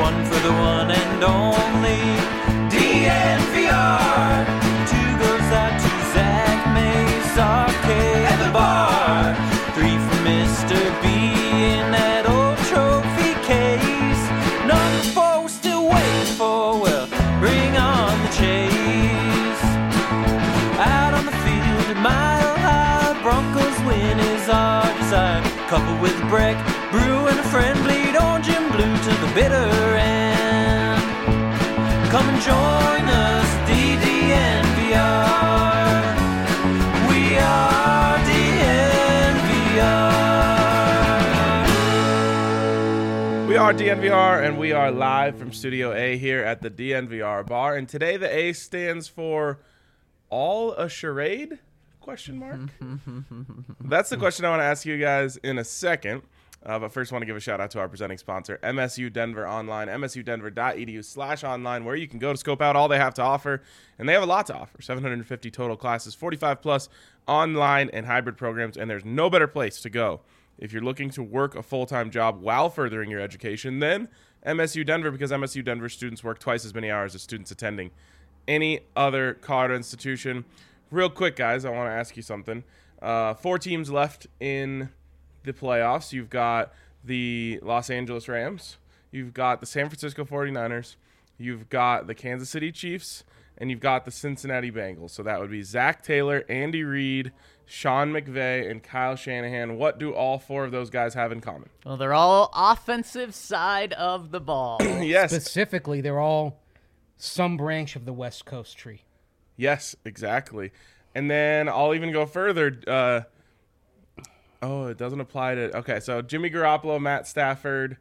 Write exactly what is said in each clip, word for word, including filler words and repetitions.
one for the one and only D N V R. Two goes out to Zach Mays, Arcade at the bar. Three for Mister B in that old trophy case. Number four we're still waiting for, well, bring on the chase. Out on the field, a mile high, Broncos win is our desire. Coupled with a break, brew and a friend, bleed orange and blue to the bitter end. Come and join us, D D N V R. We are D N V R. We are D N V R, and we are live from Studio A here at the D N V R bar. And today the A stands for All a Charade? Question mark? That's the question I want to ask you guys in a second. Uh, but first, I want to give a shout out to our presenting sponsor, M S U Denver Online, m s u denver dot e d u slash online, where you can go to scope out all they have to offer. And they have a lot to offer, seven hundred fifty total classes, forty-five plus online and hybrid programs. And there's no better place to go if you're looking to work a full-time job while furthering your education than M S U Denver, because M S U Denver students work twice as many hours as students attending any other Colorado institution. Real quick, guys, I want to ask you something. Uh, four teams left in the playoffs. You've got the Los Angeles Rams. You've got the San Francisco forty-niners. You've got the Kansas City Chiefs. And you've got the Cincinnati Bengals. So that would be Zach Taylor, Andy Reid, Sean McVay, and Kyle Shanahan. What do all four of those guys have in common? Well, they're all offensive side of the ball. Yes. Specifically, they're all some branch of the West Coast tree. Yes, exactly. And then I'll even go further. Uh, oh, it doesn't apply to... Okay, so Jimmy Garoppolo, Matt Stafford,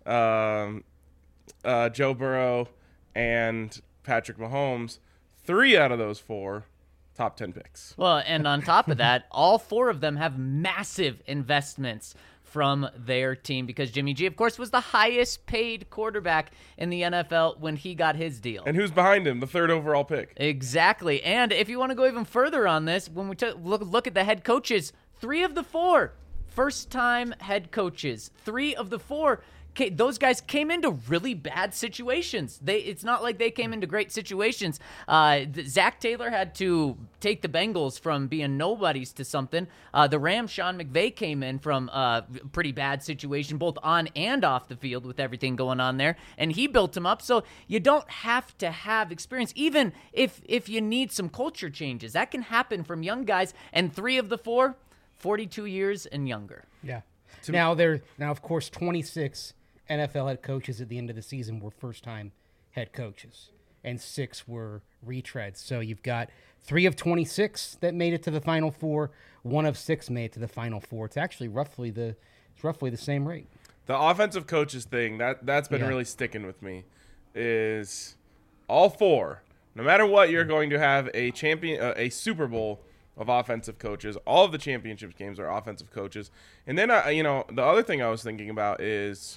um, uh, Joe Burrow, and Patrick Mahomes. Three out of those four, top ten picks. Well, and on top of that, all four of them have massive investments from their team because Jimmy G, of course, was the highest paid quarterback in the N F L when he got his deal. And who's behind him? The third overall pick. Exactly. And if you want to go even further on this, when we took, look, look at the head coaches, three of the four first-time head coaches, three of the four, those guys came into really bad situations. They It's not like they came into great situations. Uh, Zach Taylor had to take the Bengals from being nobodies to something. Uh, the Rams, Sean McVay came in from a pretty bad situation, both on and off the field with everything going on there, and he built them up. So you don't have to have experience, even if, if you need some culture changes. That can happen from young guys, and three of the four, forty-two years and younger. Yeah. Now, they're now, of course, twenty-six N F L head coaches at the end of the season were first-time head coaches, and six were retreads. So you've got three of twenty-six that made it to the Final Four. One of six made it to the Final Four. It's actually roughly the it's roughly the same rate. The offensive coaches thing, that, that's been Yeah. really sticking with me, is all four, no matter what, you're going to have a champion, uh, a Super Bowl of offensive coaches. All of the championship games are offensive coaches. And then, uh, you know, the other thing I was thinking about is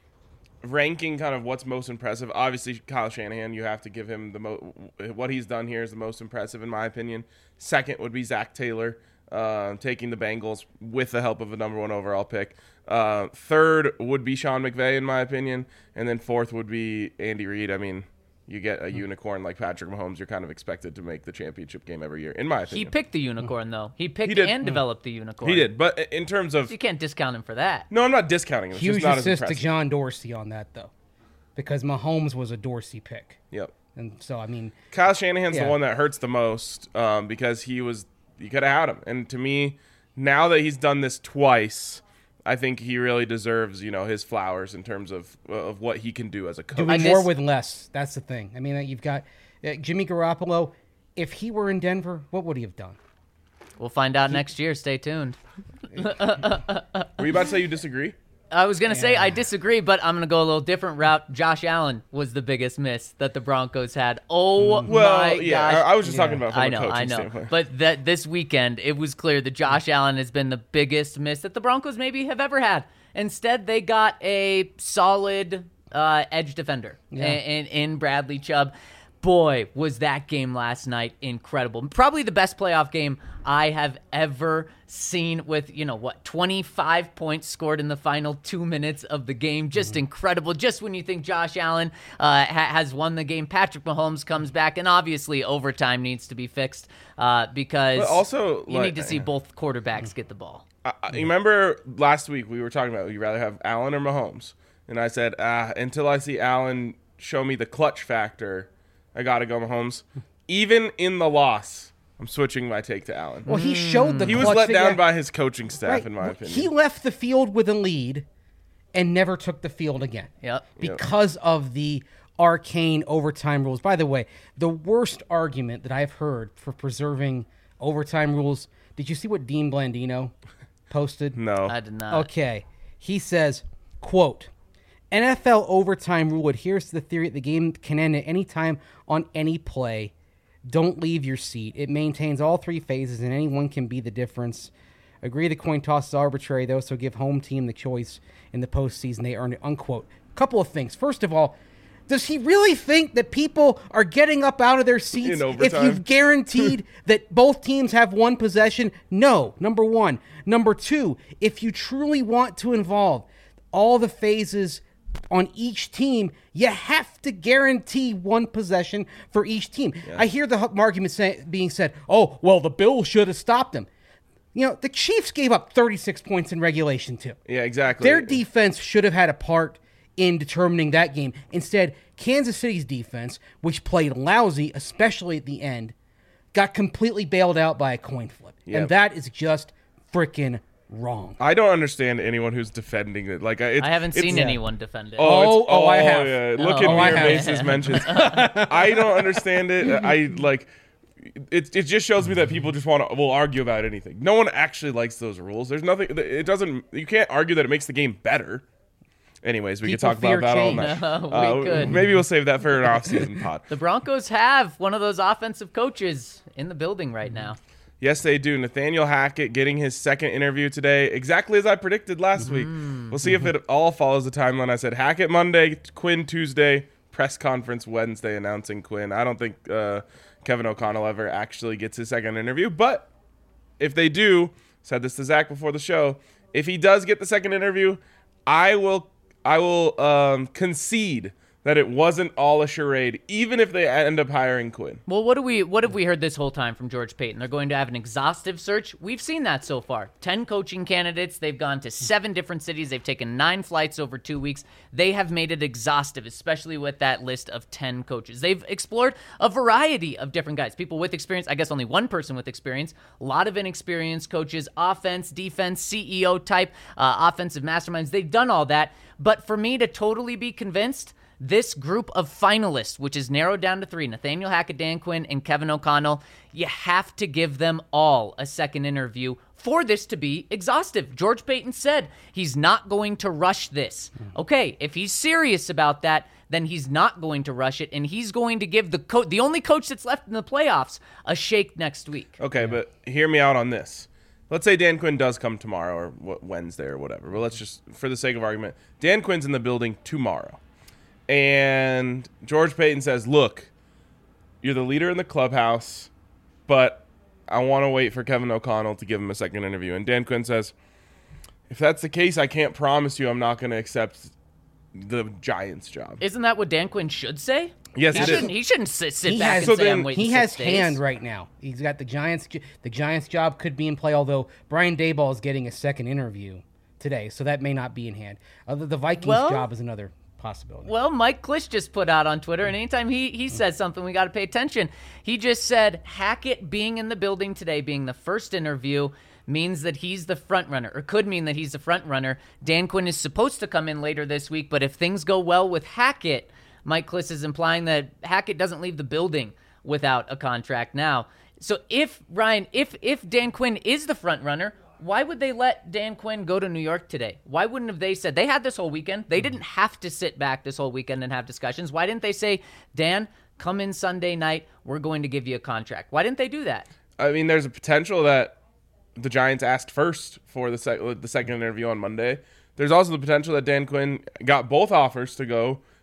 ranking kind of what's most impressive. Obviously, Kyle Shanahan, you have to give him the mo- what he's done here is the most impressive in my opinion. Second would be Zach Taylor, uh, taking the Bengals with the help of a number one overall pick. Uh, third would be Sean McVay in my opinion, and then fourth would be Andy Reid. I mean, you get a unicorn like Patrick Mahomes, you're kind of expected to make the championship game every year, in my opinion. He picked the unicorn, though. He picked He did. and developed the unicorn. He did, but in terms of... You can't discount him for that. No, I'm not discounting him. It's Huge just not as assist to impressive. John Dorsey on that, though, because Mahomes was a Dorsey pick. Yep. And so, I mean... Kyle Shanahan's Yeah. the one that hurts the most um, because he was... You could have had him. And to me, now that he's done this twice, I think he really deserves, you know, his flowers in terms of of what he can do as a coach. Doing I more just- with less. That's the thing. I mean, you've got uh, Jimmy Garoppolo. If he were in Denver, what would he have done? We'll find out next year. Stay tuned. Were you about to say you disagree? I was going to say Yeah. I disagree, but I'm going to go a little different route. Josh Allen was the biggest miss that the Broncos had. Oh, Well, my yeah, gosh. I, I was just Yeah. talking about from I a know, coaching I know. standpoint. But that this weekend, it was clear that Josh Allen has been the biggest miss that the Broncos maybe have ever had. Instead, they got a solid uh, edge defender Yeah. in, in Bradley Chubb. boy, was that game last night incredible. Probably the best playoff game I have ever seen with, you know, what, twenty-five points scored in the final two minutes of the game. Just mm-hmm. incredible. Just when you think Josh Allen uh, ha- has won the game, Patrick Mahomes comes back, and obviously overtime needs to be fixed uh, because but also, you like, need to see both quarterbacks get the ball. I, I, you remember last week we were talking about, would you rather have Allen or Mahomes? And I said, ah, until I see Allen show me the clutch factor, I got to go Mahomes. Even in the loss, I'm switching my take to Allen. Well, he showed the He clutch was let thing. down by his coaching staff, Right. in my opinion. He left the field with a lead and never took the field again. Yep. Because yep. of the arcane overtime rules. By the way, the worst argument that I've heard for preserving overtime rules, did you see what Dean Blandino posted? No. I did not. Okay. He says, quote, N F L overtime rule adheres to the theory that the game can end at any time on any play. Don't leave your seat. It maintains all three phases, and anyone can be the difference. Agree the coin toss is arbitrary, though, so give home team the choice in the postseason. They earn it, unquote. Couple of things. First of all, does he really think that people are getting up out of their seats if you've guaranteed that both teams have one possession? No, number one. Number two, if you truly want to involve all the phases on each team, you have to guarantee one possession for each team. Yeah. I hear the argument say, being said, oh, well, the Bills should have stopped them. You know, the Chiefs gave up thirty-six points in regulation, too. Yeah, exactly. Their defense should have had a part in determining that game. Instead, Kansas City's defense, which played lousy, especially at the end, got completely bailed out by a coin flip. Yep. And that is just freaking wrong. I don't understand anyone who's defending it. Like it's, I haven't it's, seen yeah. anyone defend it. Oh, oh, oh, oh, I have. Yeah. Oh, Look oh, at I Mir have. Base's mentions. I don't understand it. I like it. It just shows me that people just want to will argue about anything. No one actually likes those rules. There's nothing. It doesn't. You can't argue that it makes the game better. Anyways, we People could talk about that all change. night. No, we uh, could. Maybe we'll save that for an off-season pod. The Broncos have one of those offensive coaches in the building right now. Yes, they do. Nathaniel Hackett getting his second interview today, exactly as I predicted last week. We'll see if it all follows the timeline. I said Hackett Monday, Quinn Tuesday, press conference Wednesday announcing Quinn. I don't think uh, Kevin O'Connell ever actually gets his second interview, but if they do, said this to Zach before the show, if he does get the second interview, I will I will um, concede that it wasn't all a charade, even if they end up hiring Quinn. Well, what do we what have we heard this whole time from George Payton? They're going to have an exhaustive search. We've seen that so far. Ten coaching candidates. They've gone to seven different cities. They've taken nine flights over two weeks. They have made it exhaustive, especially with that list of ten coaches. They've explored a variety of different guys, people with experience. I guess only one person with experience. A lot of inexperienced coaches, offense, defense, C E O type, uh, offensive masterminds. They've done all that. But for me to totally be convinced, this group of finalists, which is narrowed down to three, Nathaniel Hackett, Dan Quinn, and Kevin O'Connell, you have to give them all a second interview for this to be exhaustive. George Payton said he's not going to rush this. Okay, if he's serious about that, then he's not going to rush it, and he's going to give the co- the only coach that's left in the playoffs a shake next week. Okay, yeah. But hear me out on this. Let's say Dan Quinn does come tomorrow or Wednesday or whatever, but let's just, for the sake of argument, Dan Quinn's in the building tomorrow. And George Payton says, look, you're the leader in the clubhouse, but I want to wait for Kevin O'Connell to give him a second interview. And Dan Quinn says, if that's the case, I can't promise you I'm not going to accept the Giants job. Isn't that what Dan Quinn should say? Yes, he it shouldn't, is. He shouldn't sit, sit He back has- and So say, then I'm waiting He six has days. hand right now. He's got the Giants. The Giants job could be in play, although Brian Daboll is getting a second interview today, so that may not be in hand. Uh, the, the Vikings Well- job is another possibility. Well, Mike Klisch just put out on Twitter, and anytime he, he says something, we got to pay attention. He just said Hackett being in the building today, being the first interview, means that he's the front runner, or could mean that he's the front runner. Dan Quinn is supposed to come in later this week, but if things go well with Hackett, Mike Klisch is implying that Hackett doesn't leave the building without a contract now. So if, Ryan, if if Dan Quinn is the front runner, why would they let Dan Quinn go to New York today? Why wouldn't have they said, they had this whole weekend. They didn't have to sit back this whole weekend and have discussions. Why didn't they say, Dan, come in Sunday night, we're going to give you a contract? Why didn't they do that? I mean, there's a potential that the Giants asked first for the, sec- the second interview on Monday. There's also the potential that Dan Quinn got both offers to go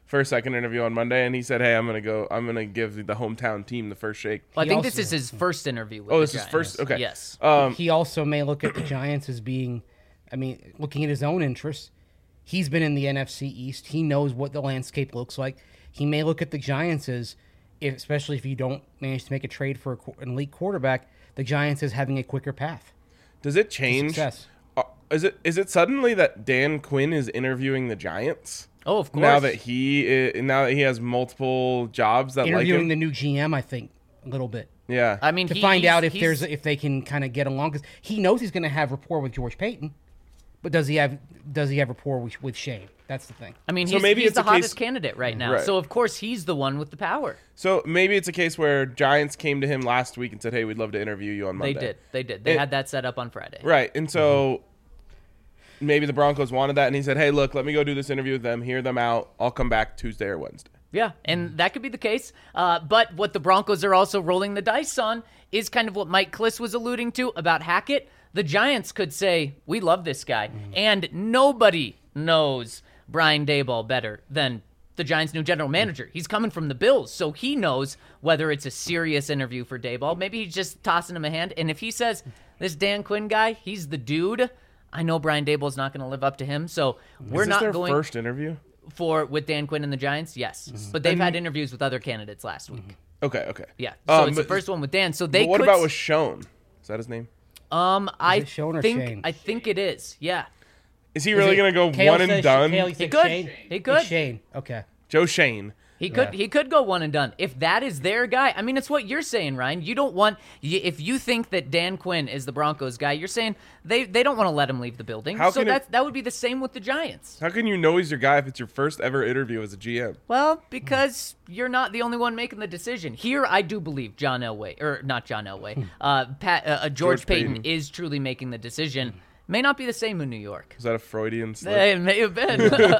first second interview on Monday, and he said, "Hey, I'm gonna go. I'm gonna give the hometown team the first shake." Well, I He think also- this is his first interview with Oh, the this is Giants. first. Okay. Yes. Um, He also may look at the Giants as being, I mean, looking at his own interests. He's been in the N F C East. He knows what the landscape looks like. He may look at the Giants as, if, especially if you don't manage to make a trade for a, qu- an elite quarterback, the Giants as having a quicker path does it to change? success. Uh, is it is it suddenly that Dan Quinn is interviewing the Giants? Oh, of course. Now that he is, now that he has multiple jobs that like Interviewing him. the new G M, I think, a little bit. yeah. I mean, To he- find he's- out if he's- there's if they can kind of get along, because he knows he's going to have rapport with George Payton, but does he have does he have rapport with, with Shane? That's the thing. I mean, So he's, maybe he's it's the a case- hottest candidate right now. Right. So, of course, he's the one with the power. So maybe it's a case where Giants came to him last week and said, "Hey, we'd love to interview you on Monday." They did. They did. They It- had that set up on Friday. Right. And so maybe the Broncos wanted that, and he said, "Hey, look, let me go do this interview with them, hear them out. I'll come back Tuesday or Wednesday." Yeah, and that could be the case. Uh, but what the Broncos are also rolling the dice on is kind of what Mike Kliss was alluding to about Hackett. The Giants could say, we love this guy. And nobody knows Brian Daboll better than the Giants' new general manager. He's coming from the Bills, so he knows whether it's a serious interview for Daboll. Maybe he's just tossing him a hand. And if he says, this Dan Quinn guy, he's the dude, I know Brian Daboll's not going to live up to him. So we're Is this not their going first interview? for with Dan Quinn and the Giants. Yes, but they've had interviews with other candidates last week. Okay, okay. Yeah, so Um, it's the but- first one with Dan. So they But what could, about with Schoen? Is that his name? um? I it Schoen or think Shane? I think it is. Yeah, Is he really going to go Kale one and says- done? Kale, you he said could. Shane? He could. It's Shane. Okay. Joe Shane. He could Yeah. he could go one and done. If that is their guy, I mean, it's what you're saying, Ryan. You don't want y- if you think that Dan Quinn is the Broncos guy, you're saying they, they don't want to let him leave the building. How so can it- that's that would be the same with the Giants. How can you know he's your guy if it's your first ever interview as a G M? Well, because you're not the only one making the decision. Here, I do believe John Elway, or not John Elway, uh, Pat, uh, uh, George, George Payton, Payton. is truly making the decision. May not be the same in New York. Is that a Freudian slip? It may have been.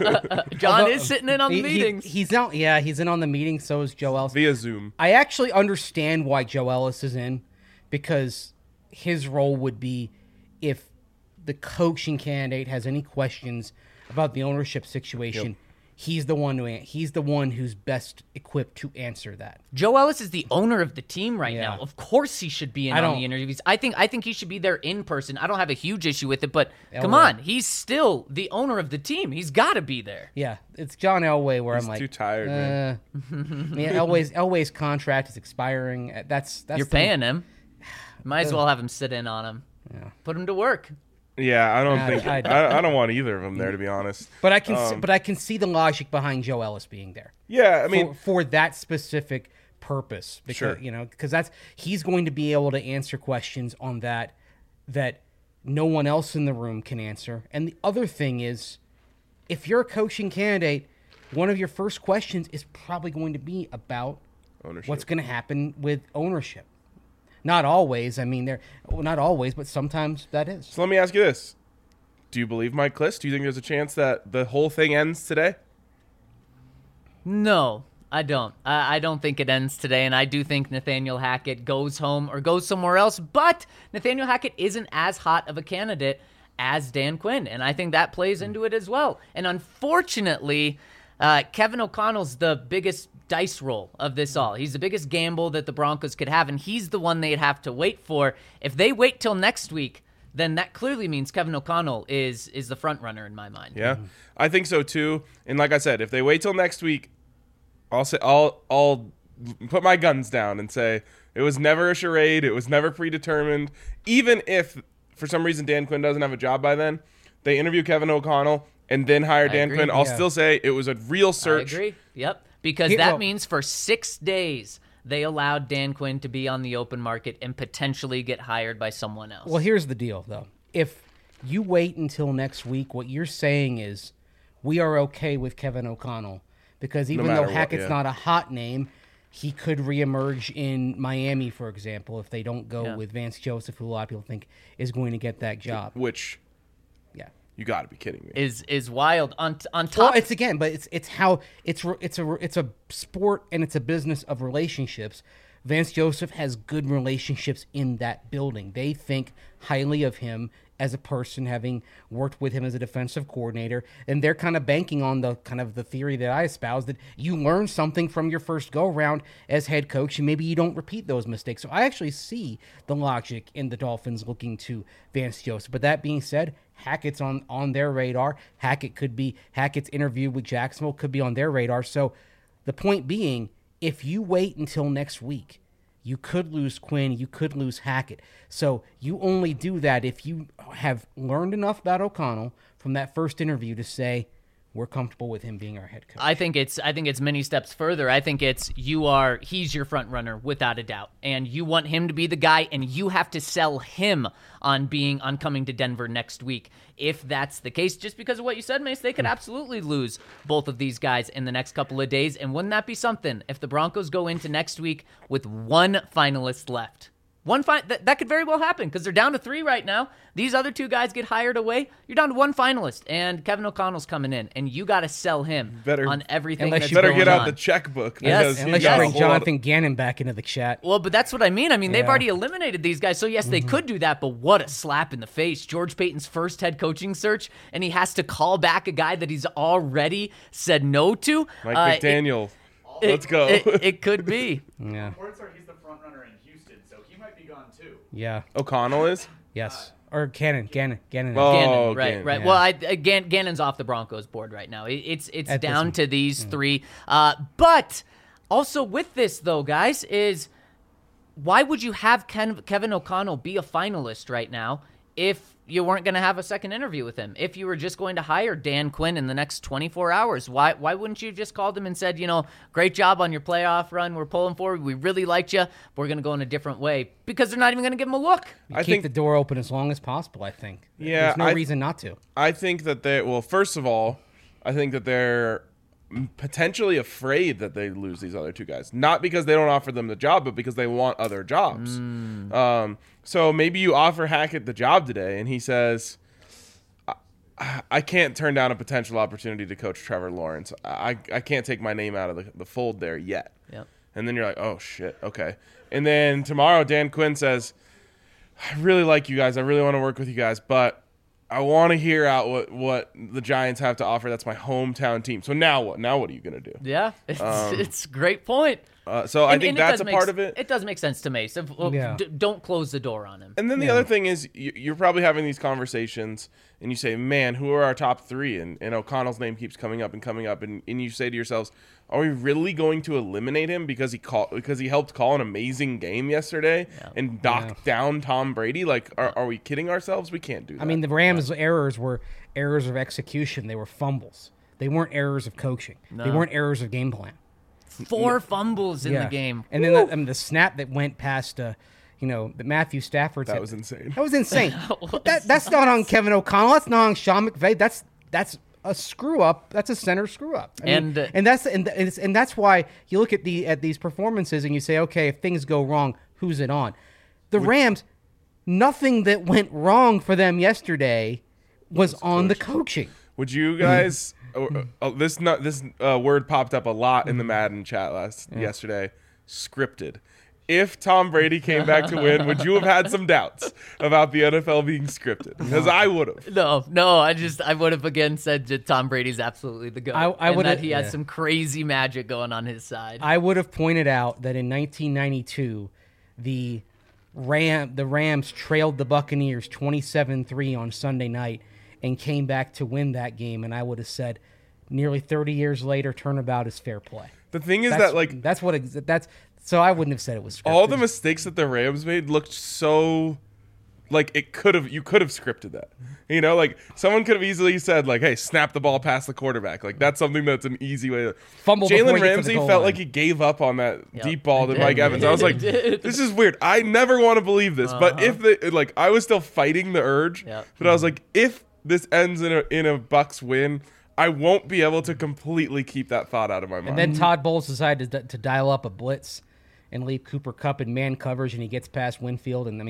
John Although- is sitting in on the He- he- meetings. he's not. Yeah, he's in on the meeting. So is Joe Ellis. Via Zoom. I actually understand why Joe Ellis is in, because his role would be if the coaching candidate has any questions about the ownership situation. He's the one who an- he's the one who's best equipped to answer that. Joe Ellis is the owner of the team right Yeah. now. Of course, he should be in I on don't- the interviews. I think I think he should be there in person. I don't have a huge issue with it, but come Elway. on, he's still the owner of the team. He's got to be there. Yeah, it's John Elway where He's I'm like too tired, man. uh, yeah, Elway's Elway's contract is expiring. Uh, That's that's You're the- paying him. Might as well have him sit in on him. Yeah. Put him to work. Yeah, I don't Nah, think I- I, I don't want either of them there, to be honest. But I can see, Um, but I can see the logic behind Joe Ellis being there. Yeah, I mean, for, for that specific purpose, because Sure. you know, because that's he's going to be able to answer questions on that that no one else in the room can answer. And the other thing is, if you're a coaching candidate, one of your first questions is probably going to be about ownership. what's going to happen with ownership. Not always. I mean, there. Well, not always, but sometimes that is. So let me ask you this: do you believe Mike Kliss? Do you think there's a chance that the whole thing ends today? No, I don't. I, I don't think it ends today, and I do think Nathaniel Hackett goes home or goes somewhere else. But Nathaniel Hackett isn't as hot of a candidate as Dan Quinn, and I think that plays into it as well. And unfortunately, uh, Kevin O'Connell's the biggest dice roll of this all. He's the biggest gamble that the Broncos could have, and he's the one they'd have to wait for. If they wait till next week, then that clearly means Kevin O'Connell is is the front runner in my mind. Yeah, I think so too. And like I said, if they wait till next week, I'll say I'll I'll put my guns down and say it was never a charade. It was never predetermined. Even if for some reason Dan Quinn doesn't have a job by then, they interview Kevin O'Connell and then hire Dan agree. Quinn. I'll Yeah. still say it was a real search. I agree. Yep. Because He- that well- means for six days they allowed Dan Quinn to be on the open market and potentially get hired by someone else. Well, here's the deal, though. If you wait until next week, what you're saying is we are okay with Kevin O'Connell because even matter though what, Hackett's yeah. not a hot name, he could reemerge in Miami, for example, if they don't go Yeah. with Vance Joseph, who a lot of people think is going to get that job. Which Yeah. you got to be kidding me. is is wild. On on Well, top, it's again, but it's it's how it's re- it's a it's a sport and it's a business of relationships. Vance Joseph has good relationships in that building. They think highly of him as a person, having worked with him as a defensive coordinator, and they're kind of banking on the kind of the theory that I espouse, that you learn something from your first go-around as head coach, and maybe you don't repeat those mistakes. So I actually see the logic in the Dolphins looking to Vance Joseph. But that being said, Hackett's on, on their radar. Hackett could be, Hackett's interview with Jacksonville could be on their radar. So the point being, if you wait until next week, you could lose Quinn, you could lose Hackett. So you only do that if you have learned enough about O'Connell from that first interview to say, we're comfortable with him being our head coach. I think it's I think it's many steps further. I think it's you are he's your front runner without a doubt, and you want him to be the guy, and you have to sell him on being on coming to Denver next week. If that's the case, just because of what you said, Mace, they could absolutely lose both of these guys in the next couple of days. And wouldn't that be something if the Broncos go into next week with one finalist left? One fi- that, that could very well happen because they're down to three right now. These other two guys get hired away. You're down to one finalist, and Kevin O'Connell's coming in, and you got to sell him Better- on everything Unless that's you Better going get out on. the checkbook. Yes, because Unless got you a bring whole lot of- Jonathan Gannon back into the chat. Well, but that's what I mean. I mean, they've Yeah. already eliminated these guys, so yes, they Mm-hmm. could do that, but what a slap in the face. George Payton's first head coaching search, and he has to call back a guy that he's already said no to. Mike Uh, it- McDaniel. it- Let's go. It, it could be. Yeah. Reports are he's the front runner in Houston, so he might be gone too. Yeah. O'Connell is? Yes. Or Gannon. Gannon. Gannon. Oh, Gannon, right, Gannon, right. yeah. Well, I, I, Gan, Gannon's off the Broncos board right now. It, it's it's At this down one. to these three. Uh, but also with this, though, guys, is why would you have Ken, Kevin O'Connell be a finalist right now if you weren't going to have a second interview with him? If you were just going to hire Dan Quinn in the next twenty-four hours, why why wouldn't you have just called him and said, you know, great job on your playoff run. We're pulling forward. We really liked you. But we're going to go in a different way because they're not even going to give him a look. You I keep think- the door open as long as possible, I think. Yeah, There's no I- reason not to. I think that they well, first of all, I think that they're potentially afraid that they lose these other two guys. Not because they don't offer them the job, but because they want other jobs. Um, so maybe you offer Hackett the job today, and he says, I, I can't turn down a potential opportunity to coach Trevor Lawrence. I, I can't take my name out of the, the fold there yet. Yep. And then you're like, oh, shit, okay. And then tomorrow, Dan Quinn says, I really like you guys. I really want to work with you guys, but I want to hear out what, what the Giants have to offer. That's my hometown team. So now what? Now what are you going to do? Yeah, it's, it's a great point. Uh, so I And- think and it that's does a make part s- of it. It does make sense to me. So uh, Yeah. d- don't close the door on him. And then the Yeah. other thing is you, you're probably having these conversations and you say, man, who are our top three? And, and O'Connell's name keeps coming up and coming up. And, and you say to yourselves, are we really going to eliminate him because he call, because he helped call an amazing game yesterday and knock Yeah. down Tom Brady? Like, are, are we kidding ourselves? We can't do that. I mean, the Rams' errors were errors of execution. They were fumbles. They weren't errors of coaching. They weren't errors of game plan. Four fumbles in Yeah. the game. And then the, I mean, the snap that went past, uh, you know, the Matthew Stafford. that was insane. That was insane. But that, that's not on Kevin O'Connell. That's not on Sean McVay. That's that's a screw up. That's a center screw up. I mean, And, uh, and that's and, and, it's, and that's why you look at the at these performances and you say, okay, if things go wrong, who's it on? The Rams. Nothing that went wrong for them yesterday was on the coaching. Would you guys? uh, uh, this not this uh, word popped up a lot in the Madden chat last yesterday. Scripted. If Tom Brady came back to win, would you have had some doubts about the N F L being scripted? Because I would have. No, no, I just I would have again said that Tom Brady's absolutely the goat. I- I and would've- that he has yeah. some crazy magic going on his side. I would have pointed out that in nineteen ninety-two, the Ram the Rams trailed the Buccaneers twenty-seven three on Sunday night and came back to win that game, and I would have said, nearly thirty years later, turnabout is fair play. The thing is That's, that like that's what ex- that's so I wouldn't have said it was scripted. all the mistakes that the Rams made looked so like it could have you could have scripted that. You know, like someone could have easily said like, "Hey, snap the ball past the quarterback." Like that's something that's an easy way to Fumble before Jalen you get to the Ramsey goal felt line. like he gave up on that Yep. deep ball to He Mike did. Evans. I was like, He did. "This is weird." I never want to believe this, but if the like I was still fighting the urge, Yep. but I was like, if this ends in a in a Bucks win, I won't be able to completely keep that thought out of my mind. And then Todd Bowles decided to, to dial up a blitz and leave Cooper Kupp in man coverage, and he gets past Winfield. And I mean,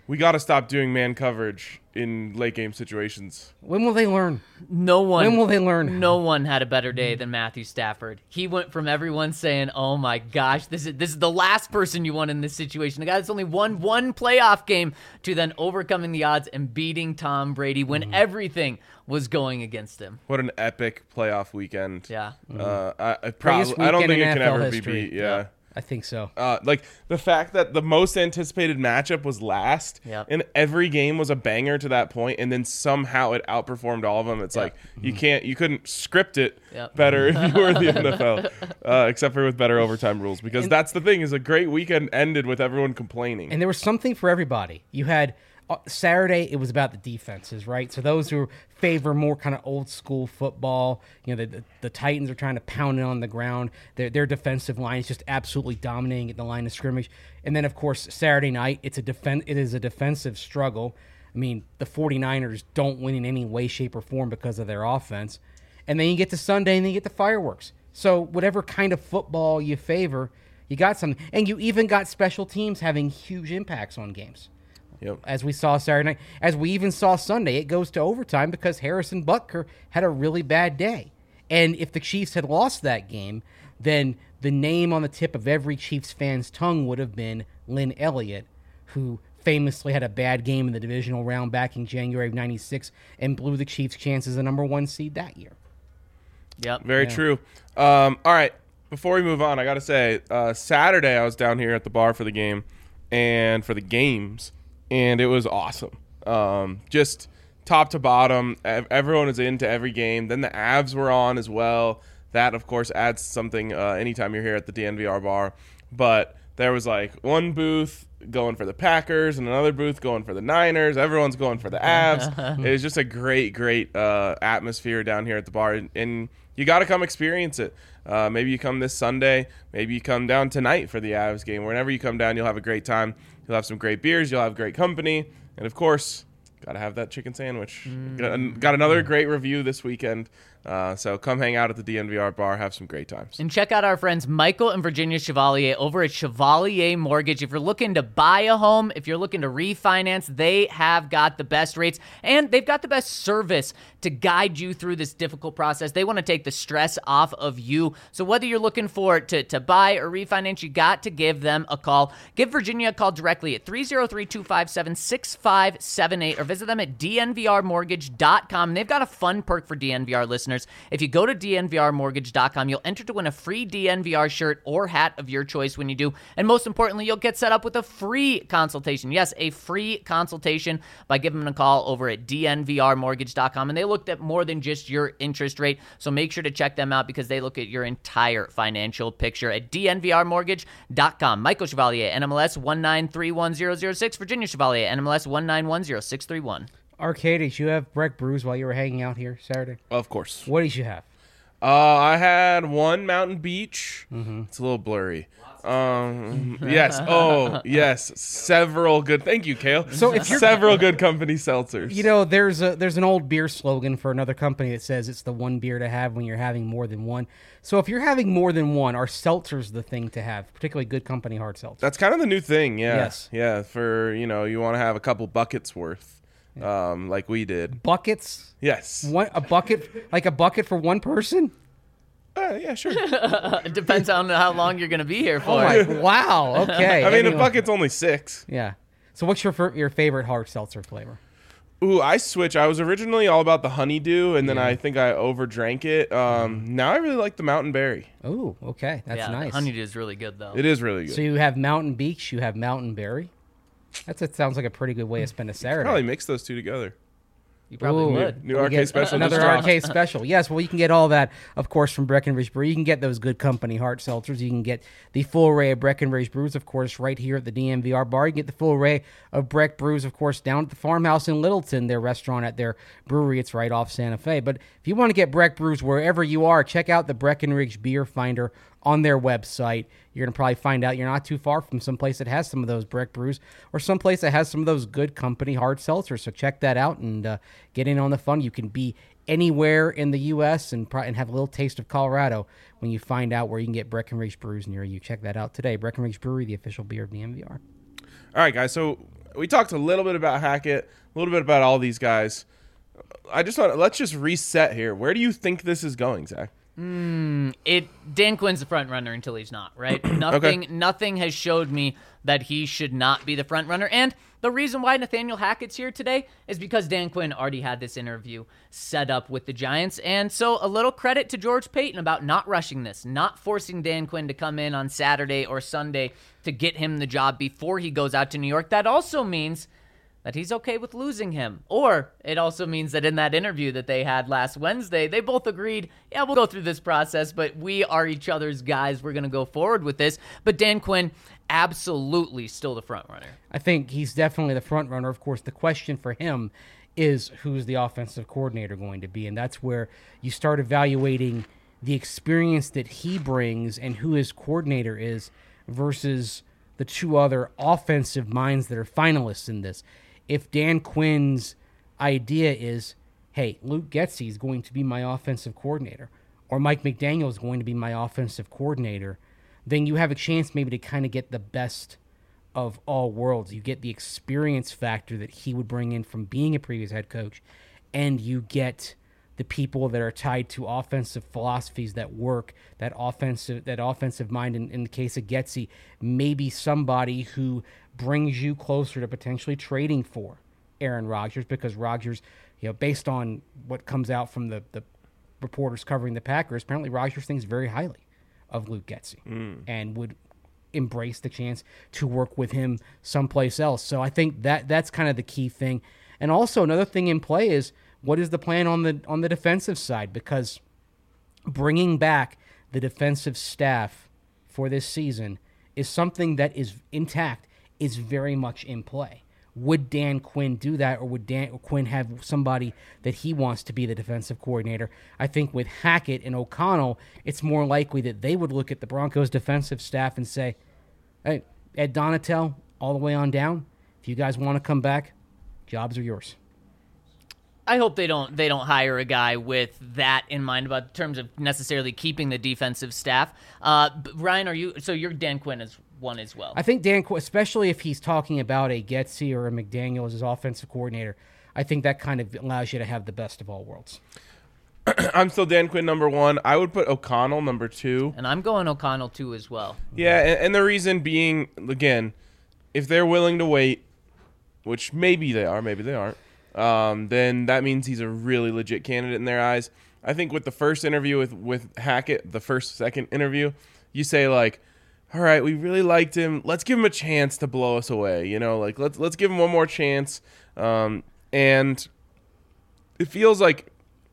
we got to stop doing man coverage in late game situations. When will they learn? No one. When will they learn? No one had a better day than Matthew Stafford. He went from everyone saying, "Oh my gosh, this is this is the last person you want in this situation." The guy that's only won one playoff game to then overcoming the odds and beating Tom Brady when everything was going against him. What an epic playoff weekend. Yeah. Uh, I, I, Greatest probably, I don't weekend think in it can N F L ever be history. beat. Yeah. I think so. Uh, like the fact that the most anticipated matchup was last, Yep. and every game was a banger to that point, and then somehow it outperformed all of them. It's Yep. like you can't, you couldn't script it Yep. better if you were the N F L, uh, except for with better overtime rules. Because And- that's the thing: is a great weekend ended with everyone complaining. And there was something for everybody. You had uh, Saturday, it was about the defenses, right? So those who favor more kind of old school football, you know, the, the, the Titans are trying to pound it on the ground. Their, their defensive line is just absolutely dominating at the line of scrimmage. And then, of course, Saturday night, it's a defen- it is a defensive struggle. I mean, the 49ers don't win in any way, shape, or form because of their offense. And then you get to Sunday, and then you get the fireworks. So whatever kind of football you favor, you got something. And you even got special teams having huge impacts on games. Yep. As we saw Saturday night, as we even saw Sunday, it goes to overtime because Harrison Butker had a really bad day. And if the Chiefs had lost that game, then the name on the tip of every Chiefs fan's tongue would have been Lynn Elliott, who famously had a bad game in the divisional round back in January of ninety-six and blew the Chiefs' chances as the number one seed that year. Yep. Very Yeah. true. Um, all right. Before we move on, I got to say, uh, Saturday I was down here at the bar for the game and for the games, and it was awesome. Um, just top to bottom, ev- everyone was into every game. Then the Avs were on as well. That, of course, adds something uh, anytime you're here at the D N V R bar. But there was like one booth going for the Packers and another booth going for the Niners. Everyone's going for the Avs. It was just a great, great uh, atmosphere down here at the bar, and, and you got to come experience it. Uh, maybe you come this Sunday. Maybe you come down tonight for the Avs game. Whenever you come down, you'll have a great time. You'll have some great beers. You'll have great company. And, of course, got to have that chicken sandwich. Mm. Got, got another great review this weekend. Uh, so come hang out at the D N V R bar. Have some great times. And check out our friends Michael and Virginia Chevalier over at Chevalier Mortgage. If you're looking to buy a home, if you're looking to refinance, they have got the best rates and they've got the best service to guide you through this difficult process. They want to take the stress off of you. So whether you're looking for to, to buy or refinance, you got to give them a call. Give Virginia a call directly at three oh three, two five seven, six five seven eight or visit them at D N V R mortgage dot com. And they've got a fun perk for D N V R listeners. If you go to D N V R mortgage dot com, you'll enter to win a free D N V R shirt or hat of your choice when you do. And most importantly, you'll get set up with a free consultation. Yes, a free consultation by giving them a call over at D N V R mortgage dot com. And they looked at more than just your interest rate. So make sure to check them out because they look at your entire financial picture at D N V R mortgage dot com. Michael Chevalier, N M L S one nine three one zero zero six. Virginia Chevalier, N M L S one nine one zero six three one. Arcade, did you have Breck Brews while you were hanging out here Saturday? Of course. What did you have? Uh, I had one Mountain Beach. Mm-hmm. It's a little blurry. Um, yes. Oh, yes. Several good. Thank you, Kale. So if you're- several good company seltzers. You know, there's a there's an old beer slogan for another company that says it's the one beer to have when you're having more than one. So if you're having more than one, are seltzers the thing to have, particularly good company hard seltzer? That's kind of the new thing. Yeah. Yes. Yeah. For you know, you want to have a couple buckets worth, um, like we did. Buckets? Yes. One a bucket like a bucket for one person? Uh, yeah. Sure. It depends on how long you're going to be here for. Oh my wow. Okay. I mean, Anyway. a bucket's only six. Yeah. So what's your fir- your favorite hard seltzer flavor? Ooh, I switch. I was originally all about the honeydew, and then I think I overdrank it. Um, now I really like the Mountain Berry. Oh, okay. That's yeah, nice. Honeydew is really good, though. It is really good. So you have Mountain Beach, you have Mountain Berry. That's it sounds like a pretty good way to spend a Saturday. Probably mix those two together. You probably Ooh. would. New We arcade get special. Another just dropped. arcade special. Yes, well, you can get all that, of course, from Breckenridge Brew. You can get those good company hard seltzers. You can get the full array of Breckenridge Brews, of course, right here at the D M V R bar. You can get the full array of Breck Brews, of course, down at the Farmhouse in Littleton, their restaurant at their brewery. It's right off Santa Fe. But if you want to get Breck Brews wherever you are, check out the Breckenridge Beer Finder on their website. You're going to probably find out you're not too far from some place that has some of those Breck Brews or some place that has some of those good company hard seltzers. So check that out and uh, get in on the fun. You can be anywhere in the U S and, pro- and have a little taste of Colorado when you find out where you can get Breckenridge Brews near you. Check that out today. Breckenridge Brewery, the official beer of the M V R. All right, guys. So we talked a little bit about Hackett, a little bit about all these guys. I just want let's just reset here. Where do you think this is going, Zach? It Dan Quinn's the front runner until he's not, right? Nothing Okay. nothing has showed me that he should not be the front runner. And the reason why Nathaniel Hackett's here today is because Dan Quinn already had this interview set up with the Giants. And so a little credit to George Payton about not rushing this, not forcing Dan Quinn to come in on Saturday or Sunday to get him the job before he goes out to New York. That also means that he's okay with losing him. Or it also means that in that interview that they had last Wednesday, they both agreed, yeah, we'll go through this process, but we are each other's guys. We're going to go forward with this. But Dan Quinn, absolutely still the front runner. I think he's definitely the front runner. Of course, the question for him is who's the offensive coordinator going to be, and that's where you start evaluating the experience that he brings and who his coordinator is versus the two other offensive minds that are finalists in this. If Dan Quinn's idea is, hey, Luke Getsy is going to be my offensive coordinator, or Mike McDaniel is going to be my offensive coordinator, then you have a chance maybe to kind of get the best of all worlds. You get the experience factor that he would bring in from being a previous head coach, and you get the people that are tied to offensive philosophies that work, that offensive that offensive mind. In, in the case of Getsy, maybe somebody who brings you closer to potentially trading for Aaron Rodgers, because Rodgers, you know, based on what comes out from the, the reporters covering the Packers, apparently Rodgers thinks very highly of Luke Getsy mm. and would embrace the chance to work with him someplace else. So I think that that's kind of the key thing. And also another thing in play is, what is the plan on the on the defensive side? Because bringing back the defensive staff for this season is something that is intact, is very much in play. Would Dan Quinn do that, or would Dan Quinn have somebody that he wants to be the defensive coordinator? I think with Hackett and O'Connell, it's more likely that they would look at the Broncos defensive staff and say, hey, Ed Donatel, all the way on down, if you guys want to come back, jobs are yours. I hope they don't they don't hire a guy with that in mind about terms of necessarily keeping the defensive staff. Uh, Ryan, are you so you're Dan Quinn as one as well? I think Dan Quinn, especially if he's talking about a Getsy or a McDaniel as his offensive coordinator, I think that kind of allows you to have the best of all worlds. I'm still Dan Quinn number one. I would put O'Connell number two. And I'm going O'Connell two as well. Yeah, and, and the reason being, again, if they're willing to wait, which maybe they are, maybe they aren't, um, then that means he's a really legit candidate in their eyes. I think with the first interview with, with Hackett, the first, second interview, you say, like, all right, we really liked him. Let's give him a chance to blow us away. You know, like, let's let's give him one more chance. Um, and it feels like,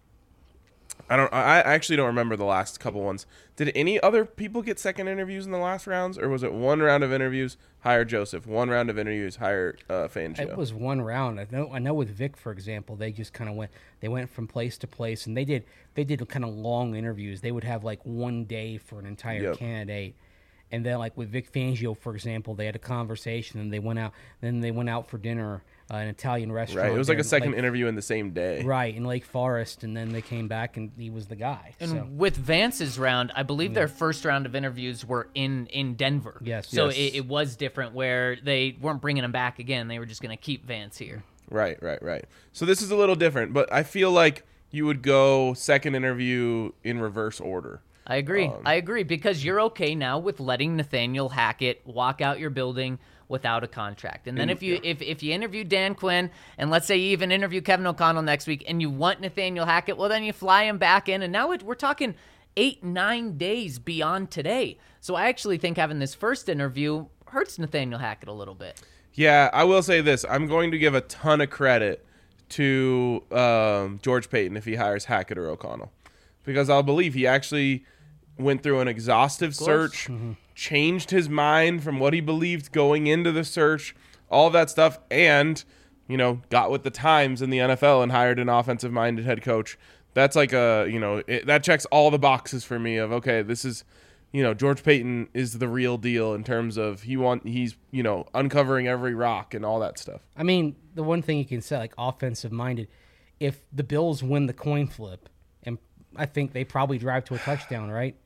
I don't. I actually don't remember the last couple ones. Did any other people get second interviews in the last rounds, or was it one round of interviews, hire Joseph, one round of interviews, hire uh, Fangio? It was one round. I know. I know with Vic, for example, they just kind of went. They went from place to place, and they did. They did kind of long interviews. They would have like one day for an entire Yep. candidate, and then like with Vic Fangio, for example, they had a conversation, and they went out. Then they went out for dinner. Uh, an Italian restaurant. Right. It was like there a in second Lake- interview in the same day. Right, in Lake Forest, and then they came back, and he was the guy. And so. with Vance's round, I believe their first round of interviews were in, in Denver. Yes. So Yes. It, it was different where they weren't bringing him back again. They were just going to keep Vance here. Right, right, right. So this is a little different, but I feel like you would go second interview in reverse order. I agree. Um, I agree because you're okay now with letting Nathaniel Hackett walk out your building without a contract. And then if you if, if you interview Dan Quinn, and let's say you even interview Kevin O'Connell next week, and you want Nathaniel Hackett, well, then you fly him back in. And now it, we're talking eight, nine days beyond today. So I actually think having this first interview hurts Nathaniel Hackett a little bit. Yeah, I will say this. I'm going to give a ton of credit to um, George Payton if he hires Hackett or O'Connell, because I'll believe he actually went through an exhaustive search, Mm-hmm. changed his mind from what he believed going into the search, all that stuff, and, you know, got with the times in the N F L and hired an offensive-minded head coach. That's like a, you know, it, that checks all the boxes for me of, okay, this is, you know, George Payton is the real deal in terms of he want he's, you know, uncovering every rock and all that stuff. I mean, the one thing you can say, like offensive-minded, if the Bills win the coin flip, and I think they probably drive to a touchdown, right?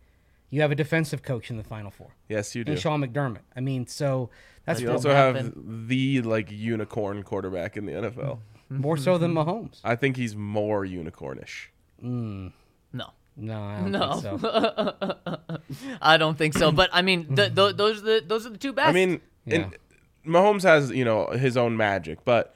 You have a defensive coach in the Final Four. Yes, you do. And Sean McDermott. I mean, so that's You That also didn't have happen. the like unicorn quarterback in the N F L. more so than Mahomes. I think he's more unicornish. No. No, I don't No. think so. I don't think so. But I mean, the, the, those are the those are the two best. I mean, Yeah. and Mahomes has, you know, his own magic, but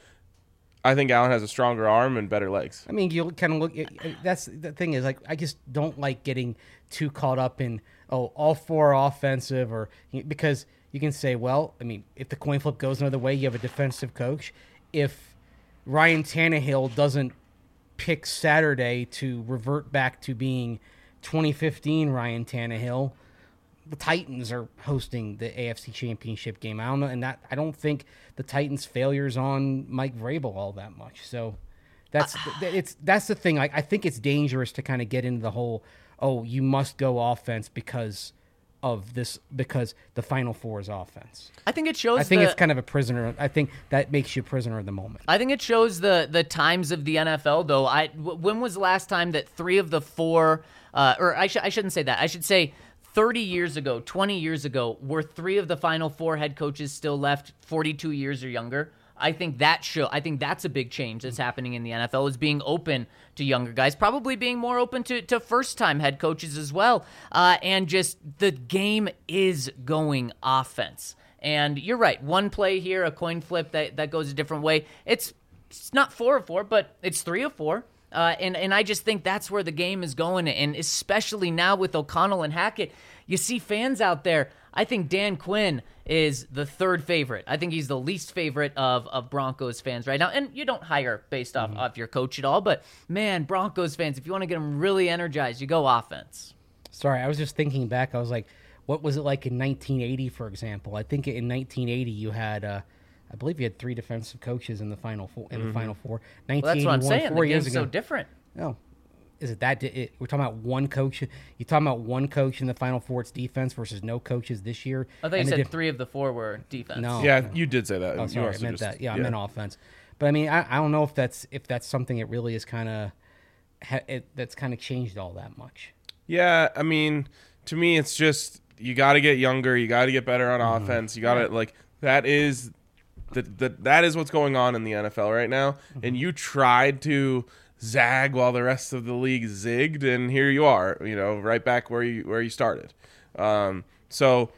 I think Allen has a stronger arm and better legs. I mean, you kind of look. That's the thing is like I just don't like getting too caught up in oh all four are offensive or because you can say well I mean if the coin flip goes another way you have a defensive coach. If Ryan Tannehill doesn't pick Saturday to revert back to being twenty fifteen Ryan Tannehill, the Titans are hosting the A F C Championship game. I don't know, and that I don't think the Titans' failures on Mike Vrabel all that much. So that's it's that's the thing. Like I think it's dangerous to kind of get into the whole oh you must go offense because of this because the Final Four is offense. I think it shows. I think the, it's kind of a prisoner. I think that makes you a prisoner of the moment. I think it shows the the times of the N F L, though. I w- when was the last time that three of the four, uh, or I, sh- I shouldn't say that. I should say thirty years ago, twenty years ago, were three of the Final Four head coaches still left forty-two years or younger? I think that show. I think that's a big change that's happening in the N F L is being open to younger guys, probably being more open to, to first-time head coaches as well. Uh, and just the game is going offense. And you're right. One play here, a coin flip that, that goes a different way. It's it's not four of four, but it's three of four. Uh, and, and I just think that's where the game is going. And especially now with O'Connell and Hackett, you see fans out there. I think Dan Quinn is the third favorite. I think he's the least favorite of, of Broncos fans right now. And you don't hire based off, Mm-hmm. off your coach at all. But, man, Broncos fans, if you want to get them really energized, you go offense. Sorry, I was just thinking back. I was like, what was it like in nineteen eighty, for example? I think in nineteen eighty you had, uh, I believe you had three defensive coaches in the final four. In the final four, Well, that's what I'm saying. four The years game's ago. so different. No, is it that? di- It, we're talking about one coach. You're talking about one coach in the final four. It's defense versus no coaches this year. I thought you And the said diff- three of the four were defense. No. Yeah, you did say that. Oh, You sorry, I also meant just- that. Yeah, I meant offense. But I mean, I, I don't know if that's if that's something that really is kind of ha- it, that's kind of changed all that much. Yeah, I mean, to me, it's just you got to get younger. You got to get better on Mm-hmm. offense. You got to like that is the, the that is what's going on in the N F L right now. Mm-hmm. And you tried to zag while the rest of the league zigged, and here you are. You know, right back where you where you started. Um, so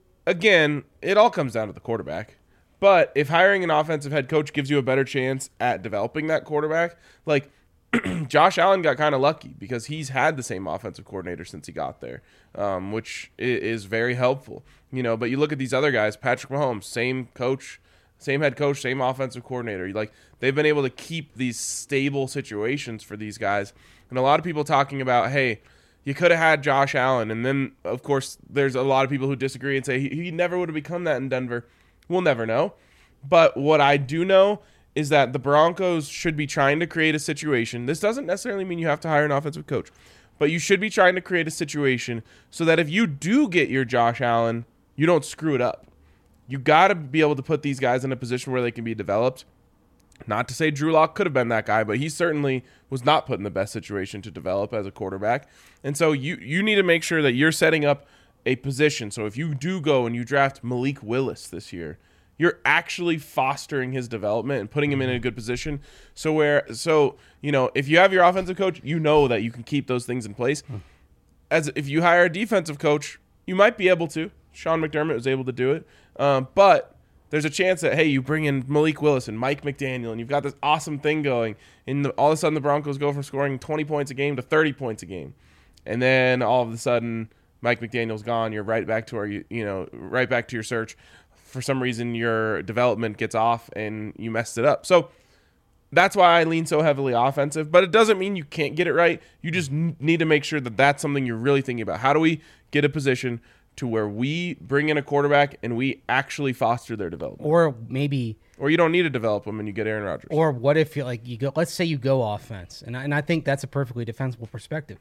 again, it all comes down to the quarterback. But if hiring an offensive head coach gives you a better chance at developing that quarterback, like Josh Allen got kind of lucky because he's had the same offensive coordinator since he got there, um, which i- is very helpful. You know, but you look at these other guys, Patrick Mahomes, same coach, same head coach, same offensive coordinator. Like they've been able to keep these stable situations for these guys. And a lot of people talking about, hey, you could have had Josh Allen. And then, of course, there's a lot of people who disagree and say he, he never would have become that in Denver. We'll never know. But what I do know is that the Broncos should be trying to create a situation. This doesn't necessarily mean you have to hire an offensive coach, but you should be trying to create a situation so that if you do get your Josh Allen, you don't screw it up. You got to be able to put these guys in a position where they can be developed. Not to say Drew Lock could have been that guy, but he certainly was not put in the best situation to develop as a quarterback. And so you you need to make sure that you're setting up a position. So if you do go and you draft Malik Willis this year, you're actually fostering his development and putting him in a good position. So where so, you know, if you have your offensive coach, you know that you can keep those things in place. As if you hire a defensive coach, you might be able to. Sean McDermott was able to do it. Um, but there's a chance that, hey, you bring in Malik Willis and Mike McDaniel, and you've got this awesome thing going, and the, all of a sudden the Broncos go from scoring twenty points a game to thirty points a game. And then all of a sudden Mike McDaniel's gone. You're right back to where you, you know, right back to your search. For some reason, your development gets off and you messed it up. So that's why I lean so heavily offensive. But it doesn't mean you can't get it right. You just n- need to make sure that that's something you're really thinking about. How do we get a position to where we bring in a quarterback and we actually foster their development? Or maybe Or you don't need to develop them and you get Aaron Rodgers. Or what if you like you go? Let's say you go offense, and I, and I think that's a perfectly defensible perspective.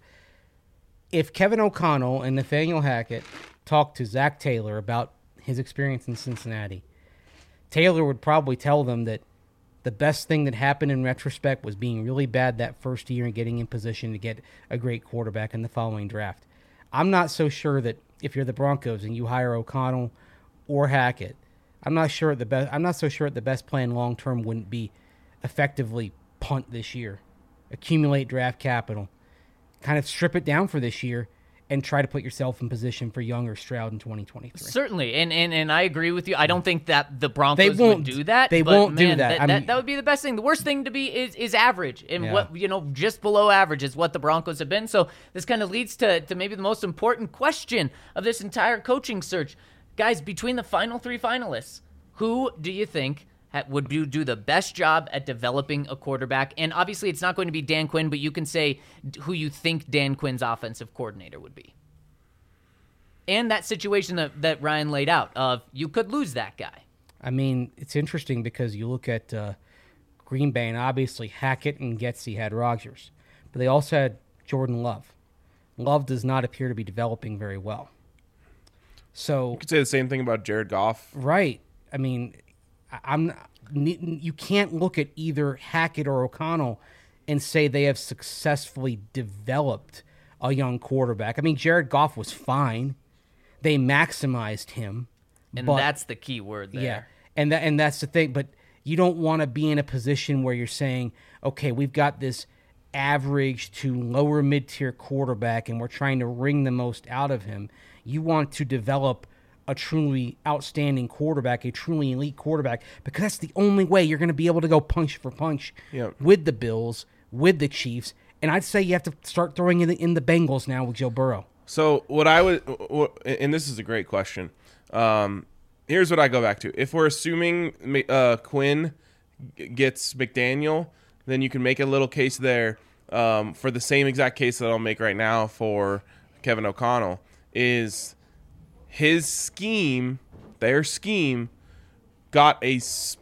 If Kevin O'Connell and Nathaniel Hackett talked to Zach Taylor about his experience in Cincinnati, Taylor would probably tell them that the best thing that happened in retrospect was being really bad that first year and getting in position to get a great quarterback in the following draft. I'm not so sure that if you're the Broncos and you hire O'Connell or Hackett, I'm not sure the best. I'm not so sure the best plan long term wouldn't be effectively punt this year, accumulate draft capital, kind of strip it down for this year, and try to put yourself in position for Young or Stroud in twenty twenty-three. Certainly, and, and and I agree with you. I don't think that the Broncos They won't would do that. they but won't do man, that. That, I'm- that. That would be the best thing. The worst thing to be is is average, and Yeah. what you know, just below average is what the Broncos have been. So this kind of leads to to maybe the most important question of this entire coaching search, guys. Between the final three finalists, who do you think ha- would do, do the best job at developing a quarterback? And obviously, it's not going to be Dan Quinn, but you can say who you think Dan Quinn's offensive coordinator would be. And that situation that, that Ryan laid out of you could lose that guy. I mean, it's interesting because you look at uh, Green Bay, and obviously Hackett and Getsy had Rodgers, but they also had Jordan Love. Love does not appear to be developing very well. So You could say the same thing about Jared Goff. right, I mean, I- I'm you can't look at either Hackett or O'Connell and say they have successfully developed a young quarterback. I mean, Jared Goff was fine. They maximized him. And but- that's the key word there. Yeah, and that and that's the thing. But you don't want to be in a position where you're saying, okay, we've got this average to lower mid-tier quarterback, and we're trying to wring the most out of him. You want to develop a truly outstanding quarterback, a truly elite quarterback, because that's the only way you're going to be able to go punch for punch Yep. with the Bills, with the Chiefs. And I'd say you have to start throwing in the, in the Bengals now with Joe Burrow. So what I would, what, and this is a great question. Um, here's what I go back to. If we're assuming uh, Quinn g- gets McDaniel, then you can make a little case there um, for the same exact case that I'll make right now for Kevin O'Connell. Is his scheme, their scheme, got a s-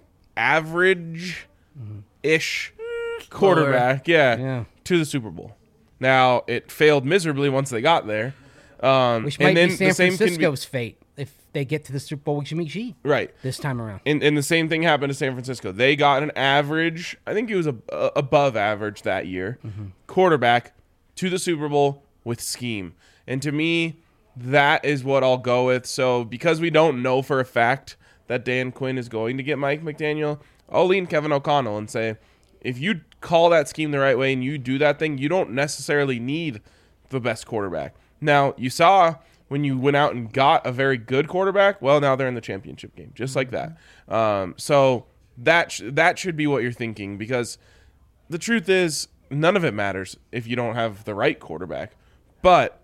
average-ish quarterback, yeah, Yeah. to the Super Bowl. Now it failed miserably once they got there. Um, Which and might then be San the same can be- Francisco's fate if they get to the Super Bowl with Jimmy G right. this time around. And, and the same thing happened to San Francisco. They got an average, I think it was a, a- above average that year, quarterback to the Super Bowl with scheme. And to me, that is what I'll go with. So because we don't know for a fact that Dan Quinn is going to get Mike McDaniel, I'll lean Kevin O'Connell and say, if you call that scheme the right way and you do that thing, you don't necessarily need the best quarterback. Now, you saw when you went out and got a very good quarterback, well, now they're in the championship game, just like that. Um, so that sh- that should be what you're thinking, because the truth is none of it matters if you don't have the right quarterback. But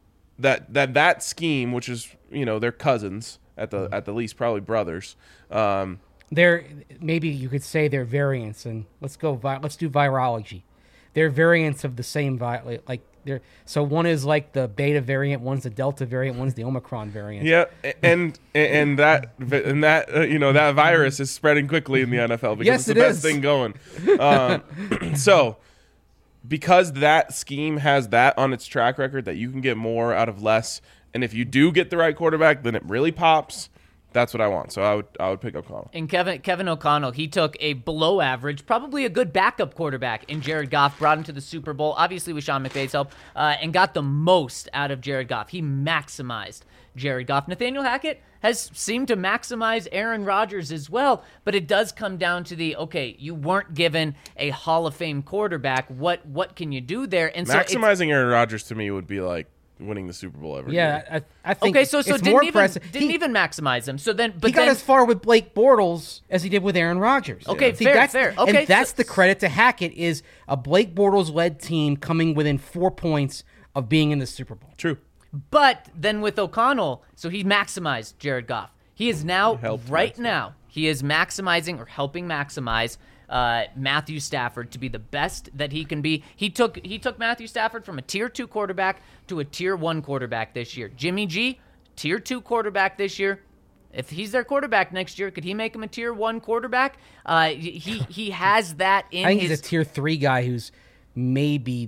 that that that scheme, which is, you know, they're cousins at the at the least, probably brothers. Um, They're maybe you could say they're variants, and let's go. Vi- let's do virology. They're variants of the same vi- like they're so one is like the beta variant, one's the delta variant, one's the Omicron variant. Yeah, and and that and that uh, you know, that virus is spreading quickly in the N F L because Yes, it's the it best is. thing going. Um, so, because that scheme has that on its track record, that you can get more out of less, and if you do get the right quarterback, then it really pops. That's what I want. So I would I would pick O'Connell. And Kevin Kevin O'Connell, he took a below average, probably a good backup quarterback in Jared Goff, brought him to the Super Bowl, obviously with Sean McVay's help, uh, and got the most out of Jared Goff. He maximized Jared Goff. Nathaniel Hackett has seemed to maximize Aaron Rodgers as well, but it does come down to the, okay, you weren't given a Hall of Fame quarterback. What what can you do there? And so it's- Maximizing Aaron Rodgers to me would be like winning the Super Bowl every year. Yeah, I, I think okay, so so it's didn't more even impressive. didn't he, even maximize them. So then, but he got then, as far with Blake Bortles as he did with Aaron Rodgers. Okay, See, fair, that's, fair. Okay, and that's so- the credit to Hackett is a Blake Bortles-led team coming within four points of being in the Super Bowl. True. But then with O'Connell, so he maximized Jared Goff. He is now, helped right maximize. now, he is maximizing or helping maximize uh, Matthew Stafford to be the best that he can be. He took he took Matthew Stafford from a tier two quarterback to a tier one quarterback this year. Jimmy G, tier two quarterback this year. If he's their quarterback next year, could he make him a tier one quarterback? Uh, he he has that in I think his. he's a tier three guy who's maybe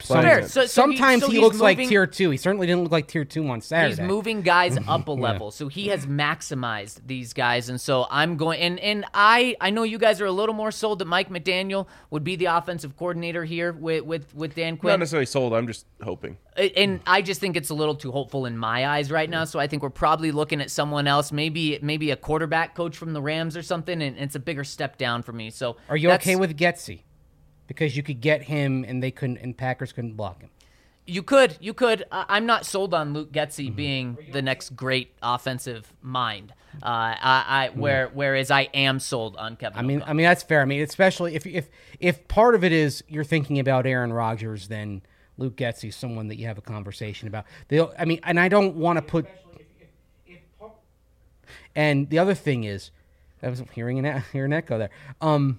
Some, Fair. So- so he- sometimes so he, he's looks like moving- tier two. He certainly didn't look like tier two on Saturday. He's moving guys up a level, so he has maximized these guys, and so I'm going. And and I I know you guys are a little more sold that Mike McDaniel would be the offensive coordinator here with with with Dan Not Quinn. necessarily sold. I'm just hoping. And I just think it's a little too hopeful in my eyes right now. So I think we're probably looking at someone else, maybe maybe a quarterback coach from the Rams or something, and it's a bigger step down for me. So Are you that's- okay with Getsy? Because you could get him, and they couldn't, and Packers couldn't block him. You could, you could. I- I'm not sold on Luke Getsy Mm-hmm. being the next great offensive mind. Uh, I, I where whereas I am sold on Kevin. I mean, O'Connell. I mean that's fair. I mean, especially if if if part of it is you're thinking about Aaron Rodgers, then Luke Getsy is someone that you have a conversation about. They'll, I mean, and I don't want to put. And the other thing is, I was hearing an hearing an echo there. Um,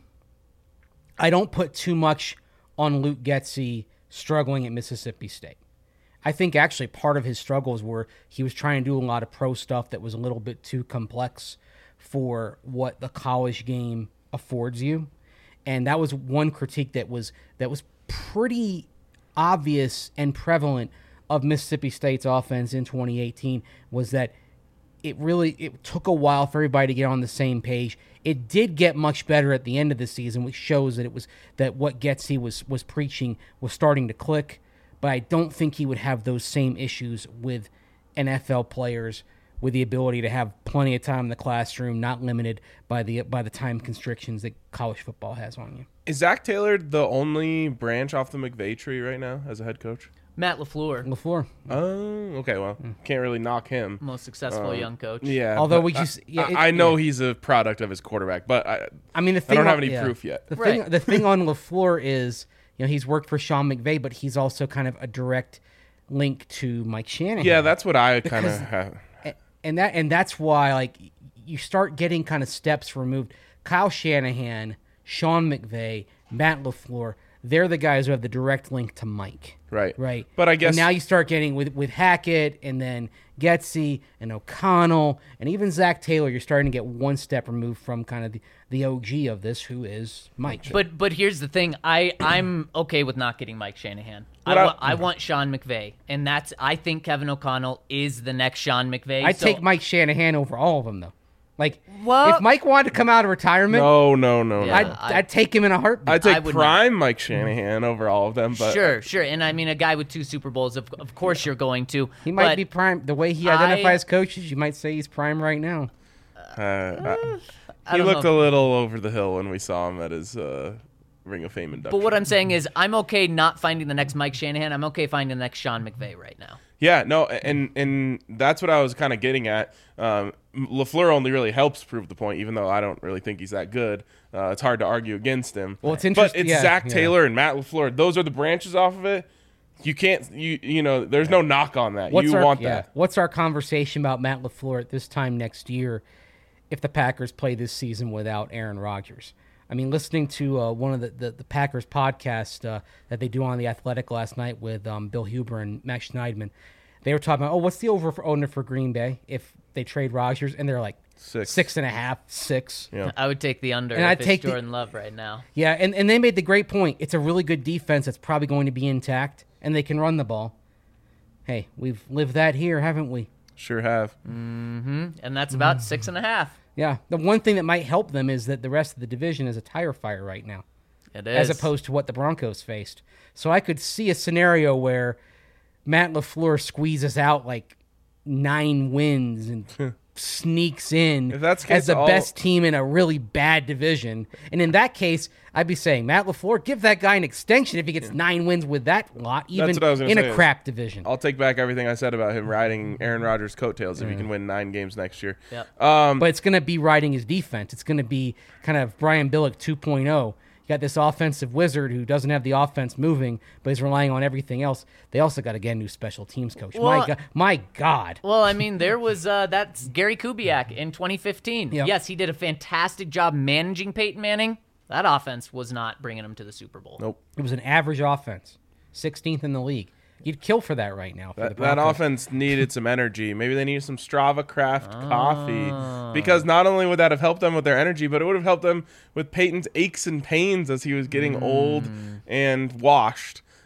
I don't put too much on Luke Getsy struggling at Mississippi State. I think actually part of his struggles were he was trying to do a lot of pro stuff that was a little bit too complex for what the college game affords you. And that was one critique that was that was pretty obvious and prevalent of Mississippi State's offense in twenty eighteen was that it really it took a while for everybody to get on the same page. It did get much better at the end of the season, which shows that it was that what Getsy was was preaching was starting to click. But I don't think he would have those same issues with N F L players with the ability to have plenty of time in the classroom, not limited by the by the time constrictions that college football has on you. Is Zach Taylor the only branch off the McVay tree right now as a head coach? Matt LaFleur, LaFleur. Oh, okay. Well, can't really knock him. most successful Um, young coach. Yeah. Although but we I- just- yeah, I, it- I know yeah. he's a product of his quarterback, but I, I mean, the I thing don't have on- any yeah. proof yet. The Right. thing, the thing on LaFleur is, you know, he's worked for Sean McVay, but he's also kind of a direct link to Mike Shanahan. Yeah, that's what I kind Because- of have. A- and that and that's why like you start getting kind of steps removed. Kyle Shanahan, Sean McVay, Matt LaFleur, they're the guys who have the direct link to Mike. Right. Right. But I And guess now you start getting with with Hackett and then Getsy and O'Connell and even Zach Taylor. You're starting to get one step removed from kind of the, the O G of this, who is Mike. But but here's the thing, I I'm okay with not getting Mike Shanahan. I, What I- wa- I want Sean McVay, and that's I think Kevin O'Connell is the next Sean McVay. I'd so- take Mike Shanahan over all of them, though. Like, Well- if Mike wanted to come out of retirement, no, no, no, Yeah. no. I'd, I- I'd take him in a heartbeat. I'd take I would prime Mike Shanahan over all of them, but Sure, sure, and I mean a guy with two Super Bowls. Of of course you're going to. He might but be prime. The way he I- identifies coaches, you might say he's prime right now. uh, I- I he don't looked know. a little over the hill when we saw him at his uh, Ring of Fame induction. But what I'm saying is, I'm okay not finding the next Mike Shanahan. I'm okay finding the next Sean McVay right now. Yeah, no, and and that's what I was kind of getting at. Um, LaFleur only really helps prove the point, even though I don't really think he's that good. Uh, it's hard to argue against him. Well, it's But interesting- it's yeah, Zach yeah. Taylor and Matt LaFleur. Those are the branches off of it. You can't, you you know, there's no knock on that. What's you our, want yeah, that. What's our conversation about Matt LaFleur at this time next year if the Packers play this season without Aaron Rodgers? I mean, listening to uh, one of the, the, the Packers podcast uh, that they do on The Athletic last night with um, Bill Huber and Max Schneidman, they were talking about, oh, what's the over for owner for Green Bay if they trade Rodgers? And they're like, Six. six and a half, six. Yeah. I would take the under And if I'd it's take the- Jordan Love right now. Yeah, and, and they made the great point. It's a really good defense that's probably going to be intact, and they can run the ball. Hey, we've lived that here, haven't we? Sure have. And that's about six and a half. Yeah. The one thing that might help them is that the rest of the division is a tire fire right now, It is. as opposed to what the Broncos faced. So I could see a scenario where Matt LaFleur squeezes out like nine wins and sneaks in If that's the as case, the all- best team in a really bad division. And in that case, I'd be saying, Matt LaFleur, give that guy an extension if he gets nine wins with that lot, even what I was gonna in say a is- crap division. I'll take back everything I said about him riding Aaron Rodgers' coattails if he can win nine games next year. Yep. Um, But it's going to be riding his defense. It's going to be kind of Brian Billick two point oh. You got this offensive wizard who doesn't have the offense moving, but is relying on everything else. They also got to get a new special teams coach. Well- my God, my God. Well, I mean, there was uh, that's Gary Kubiak in twenty fifteen. Yep. Yes, he did a fantastic job managing Peyton Manning. That offense was not bringing him to the Super Bowl. nope. It was an average offense, sixteenth in the league. You'd kill for that right now. For That, the that Broncos. offense needed some energy. Maybe they needed some Strava Craft Ah. coffee because not only would that have helped them with their energy, but it would have helped them with Peyton's aches and pains as he was getting old Mm. and washed.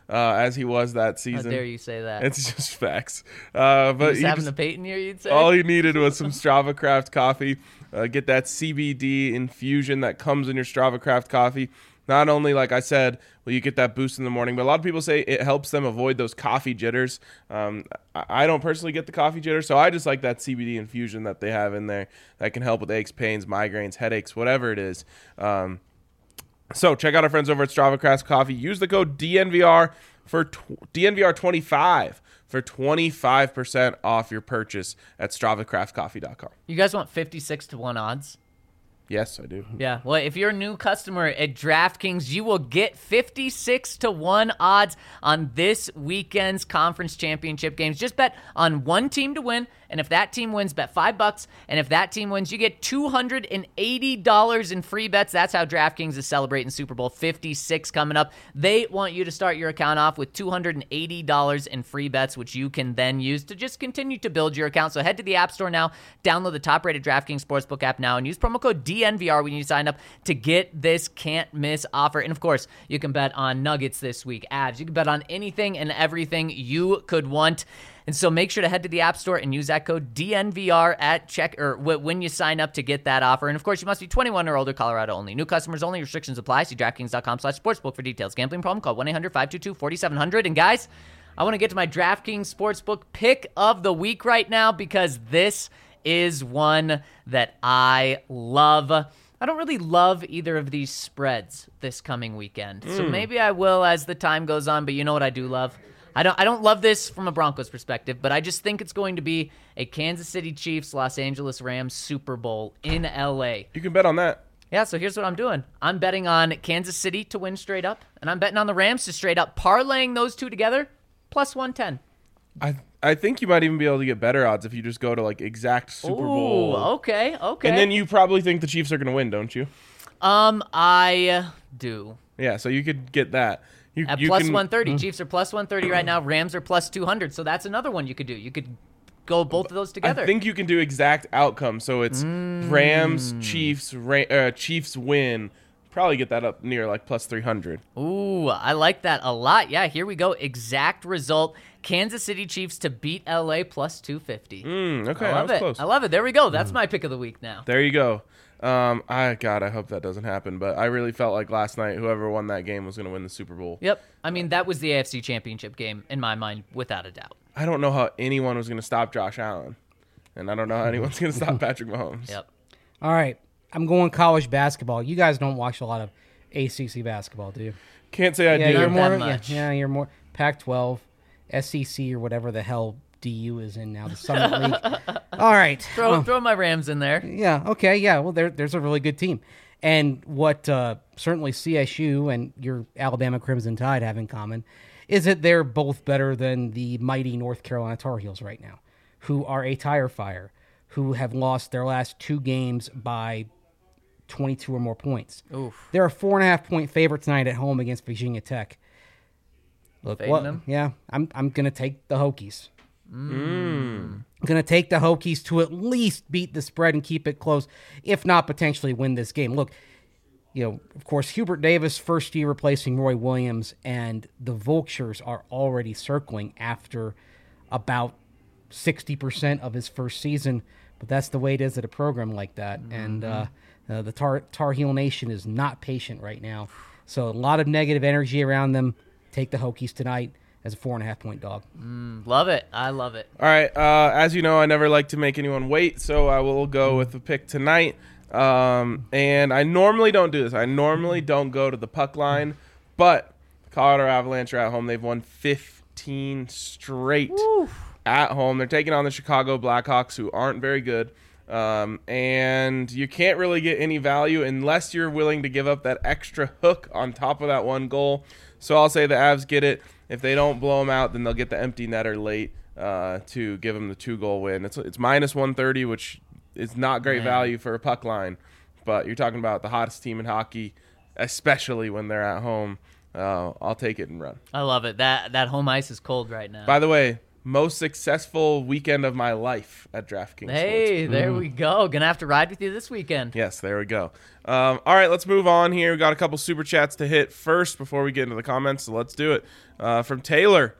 uh, as he was that How season. dare you say that? It's just facts. Uh, but He's he having just- a Peyton year, you'd say? all he needed was some Strava Craft coffee. Uh, get that C B D infusion that comes in your Strava Craft coffee. Not only, like I said, will you get that boost in the morning, but a lot of people say it helps them avoid those coffee jitters. Um, I I don't personally get the coffee jitters, so I just like that C B D infusion that they have in there that can help with aches, pains, migraines, headaches, whatever it is. Um, so check out our friends over at Strava Craft Coffee. Use the code D N V R for tw- D N V R twenty-five for twenty-five percent off your purchase at strava craft coffee dot com. You guys want fifty-six to one odds? Yes, I do. Yeah. Well, if you're a new customer at DraftKings, you will get fifty-six to one odds on this weekend's conference championship games. Just bet on one team to win, and if that team wins, bet five bucks. And if that team wins, you get two hundred eighty dollars in free bets. That's how DraftKings is celebrating Super Bowl fifty-six coming up. They want you to start your account off with two hundred eighty dollars in free bets, which you can then use to just continue to build your account. So head to the App Store now, download the top-rated DraftKings Sportsbook app now, and use promo code D N V R when you sign up to get this can't-miss offer. And, of course, you can bet on Nuggets this week, Avs. You can bet on anything and everything you could want. And so make sure to head to the App Store and use that code D N V R at check or when you sign up to get that offer. And, of course, you must be twenty-one or older, Colorado only. New customers only. Restrictions apply. See DraftKings.com slash sportsbook for details. Gambling problem? Call one eight hundred five two two four seven zero zero. And, guys, I want to get to my DraftKings Sportsbook pick of the week right now because this is one that I love. I don't really love either of these spreads this coming weekend. So maybe I will as the time goes on, but you know what I do love? I don't I don't love this from a Broncos perspective, but I just think it's going to be a Kansas City Chiefs, Los Angeles Rams Super Bowl in L A. You can bet on that. Yeah, so here's what I'm doing. I'm betting on Kansas City to win straight up, and I'm betting on the Rams to straight up, parlaying those two together, plus one ten. I I think you might even be able to get better odds if you just go to like exact Super Ooh, Bowl. okay, okay. And then you probably think the Chiefs are going to win, don't you? Um, I do. Yeah, so you could get that. You, At you plus can, one thirty. Chiefs are plus one thirty right now. Rams are plus two hundred. So that's another one you could do. You could go both of those together. I think you can do exact outcomes. So it's Mm. Rams, Chiefs, Ra- uh, Chiefs win. Probably get that up near like plus three hundred. Ooh, I like that a lot. Yeah, here we go. Exact result. Kansas City Chiefs to beat L A plus two fifty. Mm, okay, I that love was it. close. I love it. There we go. That's my pick of the week now. There you go. Um, I God, I hope that doesn't happen. But I really felt like last night, whoever won that game was going to win the Super Bowl. Yep. I mean, that was the A F C Championship game in my mind, without a doubt. I don't know how anyone was going to stop Josh Allen, and I don't know how anyone's going to stop Patrick Mahomes. Yep. All right, I'm going college basketball. You guys don't watch a lot of A C C basketball, do you? Can't say I Yeah, do. you're Not more. that Yeah, much. yeah, you're more Pac twelve, S E C, or whatever the hell D U is in now, the Summit League. All right, Throw um, throw my Rams in there. yeah, okay, yeah. Well, there, there's a really good team, and what uh, certainly C S U and your Alabama Crimson Tide have in common is that they're both better than the mighty North Carolina Tar Heels right now, who are a tire fire, who have lost their last two games by twenty-two or more points. Oof. They're a four and a half point favorite tonight at home against Virginia Tech. Look, Fading what? them? Yeah, I'm I'm gonna take the Hokies. Mm. I'm gonna take the Hokies to at least beat the spread and keep it close, if not potentially win this game. Look, you know, of course, Hubert Davis, first year replacing Roy Williams, and the Vultures are already circling after about sixty percent of his first season. But that's the way it is at a program like that. Mm-hmm. And uh, uh, the Tar, Tar Heel Nation is not patient right now. So a lot of negative energy around them. Take the Hokies tonight as a four and a half point dog. Love it. I love it. All right. Uh, as you know, I never like to make anyone wait, so I will go with the pick tonight. Um, and I normally don't do this. I normally don't go to the puck line, but Colorado Avalanche are at home. They've won fifteen straight at home. They're taking on the Chicago Blackhawks, who aren't very good. Um, and you can't really get any value unless you're willing to give up that extra hook on top of that one goal. So I'll say the Avs get it. If they don't blow them out, then they'll get the empty netter late uh, to give them the two-goal win. It's it's minus one thirty, which is not great Man. value for a puck line. But you're talking about the hottest team in hockey, especially when they're at home. Uh, I'll take it and run. I love it. That that home ice is cold right now. By the way, most successful weekend of my life at DraftKings. Hey, Sportsbook. there we go. Gonna have to ride with you this weekend. Yes, there we go. Um, all right, let's move on here. We got a couple super chats to hit first before we get into the comments, so let's do it. Uh, from Taylor,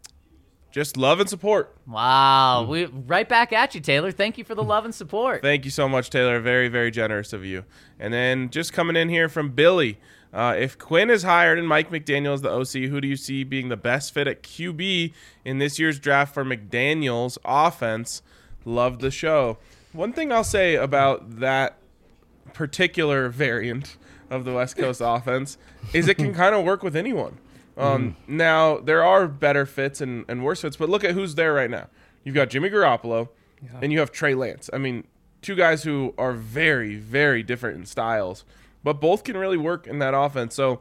just love and support. Wow. We right back at you, Taylor. Thank you for the love and support. Thank you so much, Taylor. Very, very generous of you. And then just coming in here from Billy, uh, if Quinn is hired and Mike McDaniel is the O C, who do you see being the best fit at Q B in this year's draft for McDaniel's offense? Love the show. One thing I'll say about that particular variant of the West Coast offense is it can kind of work with anyone. Um, mm. Now, there are better fits and, and worse fits, but look at who's there right now. You've got Jimmy Garoppolo, yeah. and you have Trey Lance. I mean, two guys who are very, very different in styles, but both can really work in that offense. So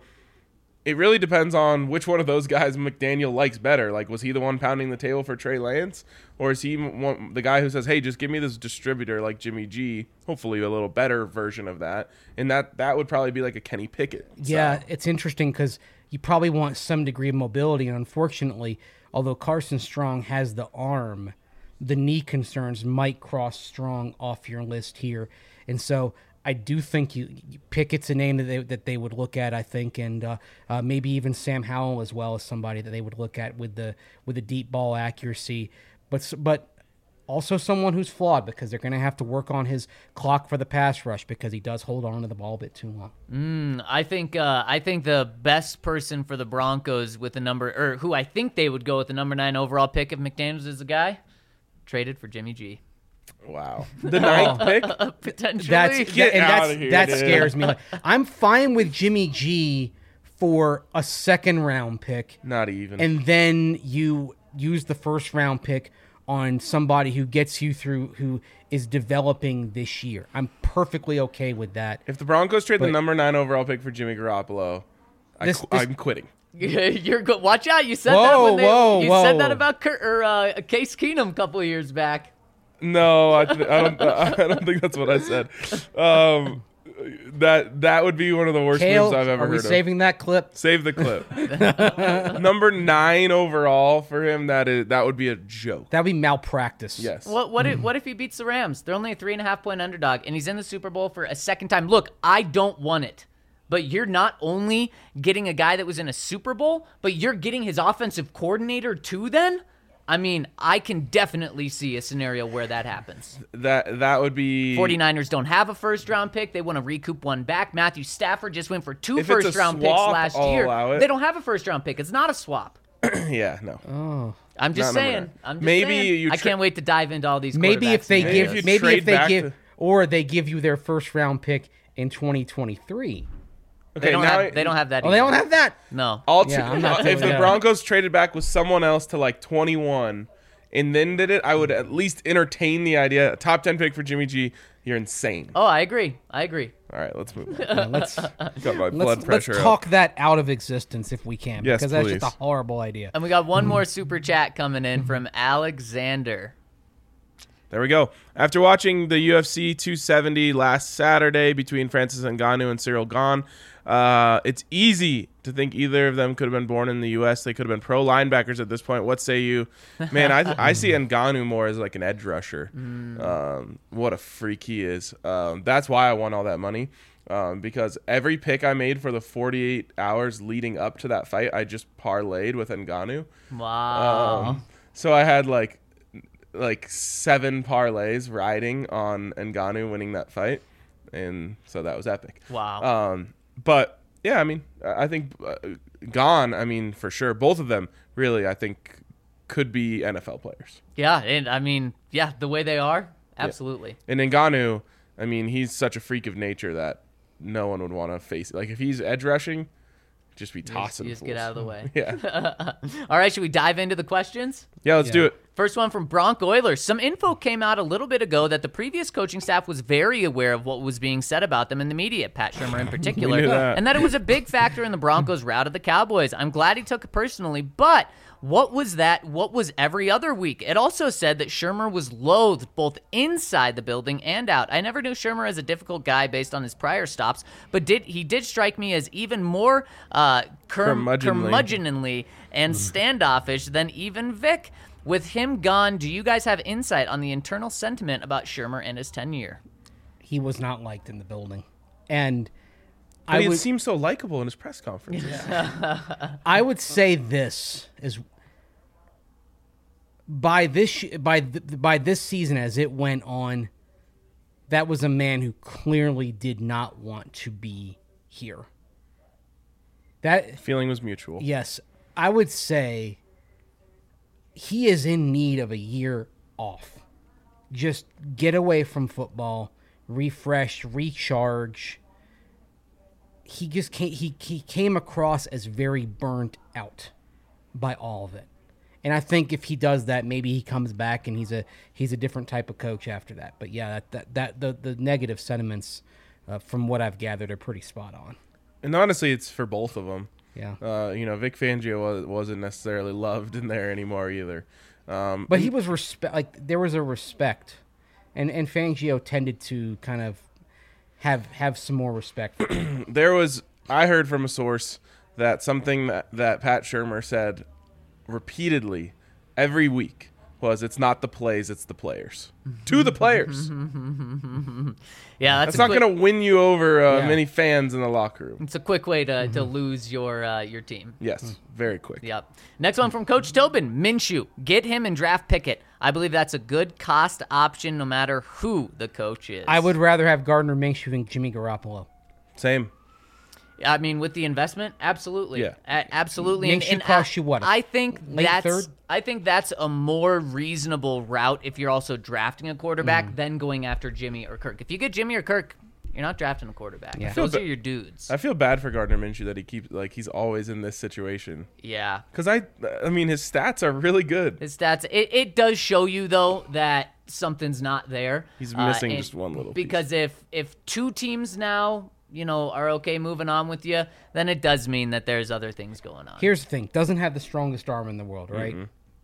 it really depends on which one of those guys McDaniel likes better. Like, was he the one pounding the table for Trey Lance, or is he one, the guy who says, hey, just give me this distributor like Jimmy G, hopefully a little better version of that, and that, that would probably be like a Kenny Pickett. Yeah, style. It's interesting because you probably want some degree of mobility, and unfortunately, although Carson Strong has the arm, the knee concerns might cross Strong off your list here. And so I do think you, you Pickett's a name that they, that they would look at, I think, and uh, uh, maybe even Sam Howell as well as somebody that they would look at with the with the deep ball accuracy. But but also someone who's flawed because they're going to have to work on his clock for the pass rush because he does hold on to the ball a bit too long. Mm, I think uh, I think the best person for the Broncos with the number, or who I think they would go with the number nine overall pick if McDaniels is the guy, traded for Jimmy G. Wow. The ninth pick? Potentially. That's, Get and out that's, of here, that dude. scares me. Like, I'm fine with Jimmy G for a second round pick, Not even. and then you use the first round pick on somebody who gets you through, who is developing this year. I'm perfectly okay with that. If the Broncos trade But- the number nine overall pick for Jimmy Garoppolo, I This- qu- this- I'm quitting. You're good. Watch out! You said Whoa, that when they, whoa, you whoa. said that about Kurt, or uh, Case Keenum a couple of years back. No, I, th- I don't. I don't think that's what I said. Um, that that would be one of the worst Kale, moves I've ever are we heard saving that clip? of. Save the clip. Number nine overall for him. That is that would be a joke. That would be malpractice. Yes. What what if what if he beats the Rams? They're only a three and a half point underdog, and he's in the Super Bowl for a second time. Look, I don't want it, but you're not only getting a guy that was in a Super Bowl, but you're getting his offensive coordinator too. Then, I mean, I can definitely see a scenario where that happens. That that would be. 49ers don't have a first round pick. They want to recoup one back. Matthew Stafford just went for two If it's a first round picks swap, last I'll year. allow it. They don't have a first round pick. It's not a swap. Yeah. No. Oh. I'm just Not number saying. nine. I'm just Maybe saying. you I tra- can't wait to dive into all these. Maybe if quarterbacks they and Maybe give, if you maybe trade if they back give, to- or they give you their first round pick in twenty twenty-three. Okay. They don't now have. They don't have that. Oh, they don't either. have that. No. I'll Yeah, t- I'm not if doing the that. Broncos traded back with someone else to like twenty-one and then did it, I would at least entertain the idea. A top ten pick for Jimmy G. You're insane. Oh, I agree. I agree. All right, let's move on. Yeah, let's Got my blood let's, let's pressure up. talk that out of existence if we can, Yes, because that's please. just a horrible idea. And we got one more super chat coming in from Alexander. There we go. After watching the U F C two seventy last Saturday between Francis Ngannou and Cyril Gane, uh, it's easy to think either of them could have been born in the U S. They could have been pro linebackers at this point. What say you? Man, I I see Ngannou more as like an edge rusher. Um, what a freak he is. Um, that's why I won all that money. Um, because every pick I made for the forty-eight hours leading up to that fight, I just parlayed with Ngannou. Wow. Um, so I had like like seven parlays riding on Ngannou winning that fight, and so that was epic. wow. Um, but yeah, I mean, I think uh, Gane, I mean, for sure, both of them really, I think, could be N F L players. yeah, and I mean, yeah, the way they are, absolutely. And Ngannou, I mean, he's such a freak of nature that no one would want to face it. Like if he's edge rushing, just be You just, tossing. you just get fools. out of the way. Yeah, All right, should we dive into the questions? yeah. Let's Yeah. do it. First one from Bronc Oilers. Some info came out a little bit ago that the previous coaching staff was very aware of what was being said about them in the media, Pat Shurmur in particular, knew that. and that it was a big factor in the Broncos' rout of the Cowboys. I'm glad he took it personally, but what was that? What was every other week? It also said that Shurmur was loathed both inside the building and out. I never knew Shurmur as a difficult guy based on his prior stops, but did he did strike me as even more uh, curm- Curmudgeonly. curmudgeonly and standoffish than even Vic. With him gone, do you guys have insight on the internal sentiment about Shurmur and his tenure? He was not liked in the building. And But I he would, seems so likable in his press conferences. I would say this is by this by th- by this season as it went on, that was a man who clearly did not want to be here. That Feeling was mutual. yes, I would say he is in need of a year off. Just get away from football, refresh, recharge. He just came, he he came across as very burnt out by all of it. And I think if he does that, maybe he comes back and he's a he's a different type of coach after that. But yeah, that that, that the, the negative sentiments uh, from what I've gathered are pretty spot on. And honestly, it's for both of them. Yeah. Uh, you know, Vic Fangio was, wasn't necessarily loved in there anymore either. Um, But he was respect like there was a respect. And and Fangio tended to kind of have have some more respect for him. there was, I heard from a source that something that, that Pat Shurmur said repeatedly every week was, it's not the plays, it's the players. To the players. Yeah, that's, That's a not quick, going to win you over uh, Yeah. many fans in the locker room. It's a quick way to, to lose your uh, your team. Yes, very quick. Yep. Next one from Coach Tobin. Minshew. Get him and draft Pickett. I believe that's a good cost option no matter who the coach is. I would rather have Gardner Minshew than Jimmy Garoppolo. Same. I mean, with the investment, absolutely. Yeah. A- absolutely. Minshew costs you what, a I think late that's third? I think that's a more reasonable route if you're also drafting a quarterback Mm. than going after Jimmy or Kirk. If you get Jimmy or Kirk, you're not drafting a quarterback. Yeah. Those I feel are ba- your dudes. I feel bad for Gardner Minshew that he keeps, like, he's always in this situation. yeah. Because I, I mean, his stats are really good. His stats. It, it does show you though that something's not there. He's Uh, missing and- just one little piece. Because if if two teams now, you know, are okay moving on with you, then it does mean that there's other things going on. Here's the thing: doesn't have the strongest arm in the world, right?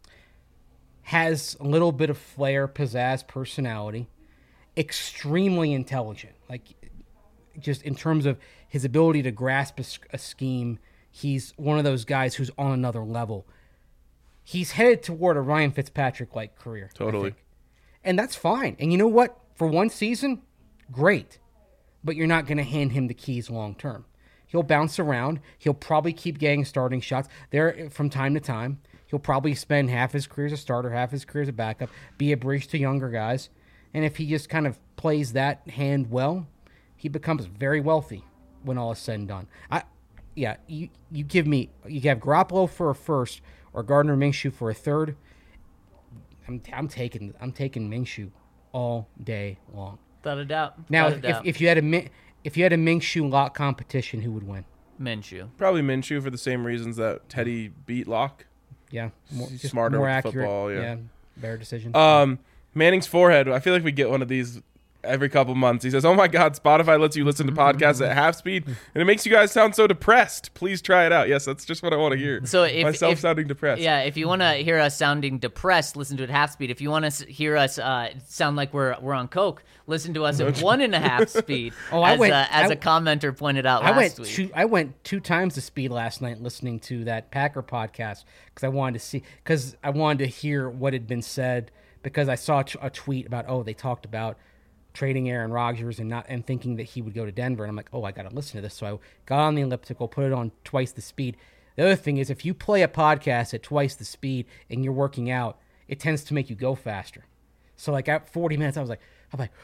Has a little bit of flair, pizzazz, personality. Extremely intelligent, like just in terms of his ability to grasp a, s- a scheme. He's one of those guys who's on another level. He's headed toward a Ryan Fitzpatrick-like career. I Totally. think. And that's fine. And you know what? For one season, great. But you're not going to hand him the keys long term. He'll bounce around. He'll probably keep getting starting shots there from time to time. He'll probably spend half his career as a starter, half his career as a backup, be a bridge to younger guys. And if he just kind of plays that hand well, he becomes very wealthy when all is said and done. I, yeah, you you give me you have Garoppolo for a first or Gardner Minshew for a third. I'm I'm taking I'm taking Minshew all day long. Without a doubt. Now, Without a if, doubt. if you had a Min- if you had a Minshew Lock competition, who would win? Minshew. Probably Minshew for the same reasons that Teddy beat Locke. Yeah, more, He's just smarter more with accurate. football, yeah. better decisions. Um, Manning's forehead. I feel like we get one of these every couple months. He says, "Oh my God, Spotify lets you listen to podcasts at half speed, and it makes you guys sound so depressed. Please try it out." Yes, that's just what I want to hear. So if- myself if- sounding depressed. Yeah, if you want to hear us sounding depressed, listen to it half speed. If you want to hear us uh, sound like we're we're on coke, listen to us at one and a half speed. Oh, I as, went- uh, as I- a commenter pointed out I last went week. two. I went two times the speed last night listening to that Packer podcast because I wanted to see because I wanted to hear what had been said because I saw t- a tweet about oh they talked about trading Aaron Rodgers and not and thinking that he would go to Denver and I'm like oh I got to listen to this so I got on the elliptical, put it on twice the speed. The other thing is if you play a podcast at twice the speed and you're working out, it tends to make you go faster. So like at forty minutes, I was like, I'm like,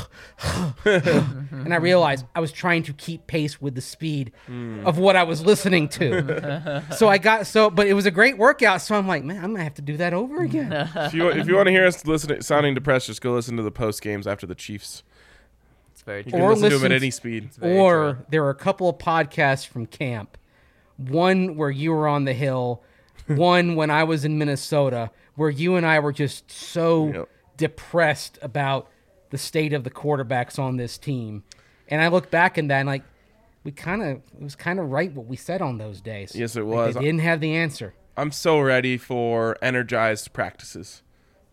and I realized I was trying to keep pace with the speed of what I was listening to. So I got so, but it was a great workout. So I'm like, man, I'm gonna have to do that over again. If you if you want to hear us listening sounding depressed, just go listen to the post games after the Chiefs. It's very You true. can Or listen to them listen at to- any speed. very Or true. there are a couple of podcasts from camp. One where you were on the hill, one when I was in Minnesota, where you and I were just so Yep. depressed about the state of the quarterbacks on this team. And I look back in that and like, we kind of, it was kind of right what we said on those days. Yes, it Like, was. they didn't have the answer. I'm so ready for energized practices.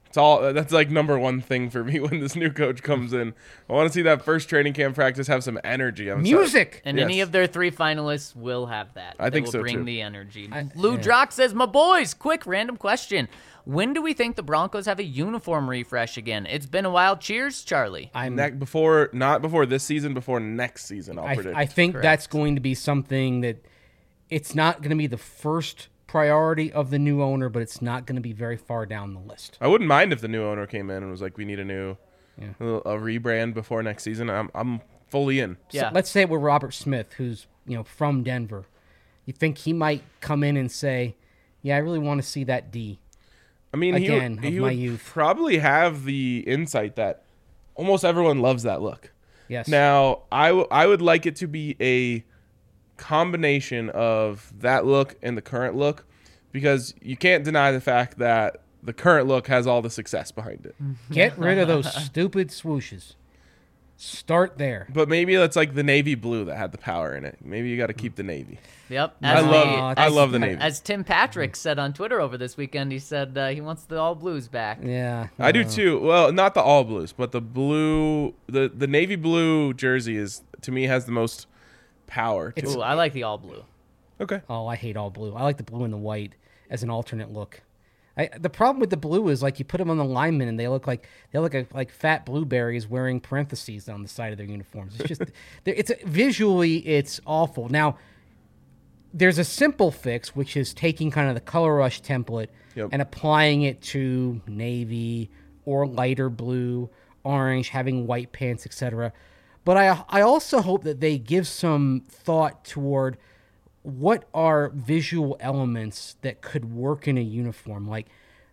It's all that's like number one thing for me when this new coach comes in. I want to see that first training camp practice have some energy. I'm Music. And Yes. any of their three finalists will have that. I They think will so, bring too. the energy. I- Lou yeah. Drock says, "My boys, quick random question: when do we think the Broncos have a uniform refresh again? It's been a while. Cheers, Charlie." I'm Ne- before not before this season, before next season. I'll I, predict. I think Correct. that's going to be something that it's not going to be the first priority of the new owner, but it's not going to be very far down the list. I wouldn't mind if the new owner came in and was like, "We need a new, Yeah. a, little- a rebrand before next season." I'm I'm fully in. Yeah. So let's say we're Robert Smith, who's you know from Denver. You think he might come in and say, "Yeah, I really want to see that D." I mean, Again, he would, of he my would youth. probably have the insight that almost everyone loves that look. Yes. Now, I, w- I would like it to be a combination of that look and the current look, because you can't deny the fact that the current look has all the success behind it. Get rid of those stupid swooshes. Start there. But maybe it's like the navy blue that had the power in it. Maybe you got to keep the navy. Yep. I As love the- I as- love the navy. As Tim Patrick said on Twitter over this weekend, he said uh, he wants the all blues back. Yeah. I do uh, too. Well, not the all blues, but the blue, the the navy blue jersey is to me has the most power. To It's- it. Ooh, I like the all blue. Okay. Oh, I hate all blue. I like the blue and the white as an alternate look. I, the problem with the blue is like you put them on the linemen and they look like they look like, like fat blueberries wearing parentheses on the side of their uniforms. It's just they're- it's visually it's awful. Now there's a simple fix, which is taking kind of the Color Rush template Yep. and applying it to navy or lighter blue, orange, having white pants, et cetera. But I I also hope that they give some thought toward what are visual elements that could work in a uniform. Like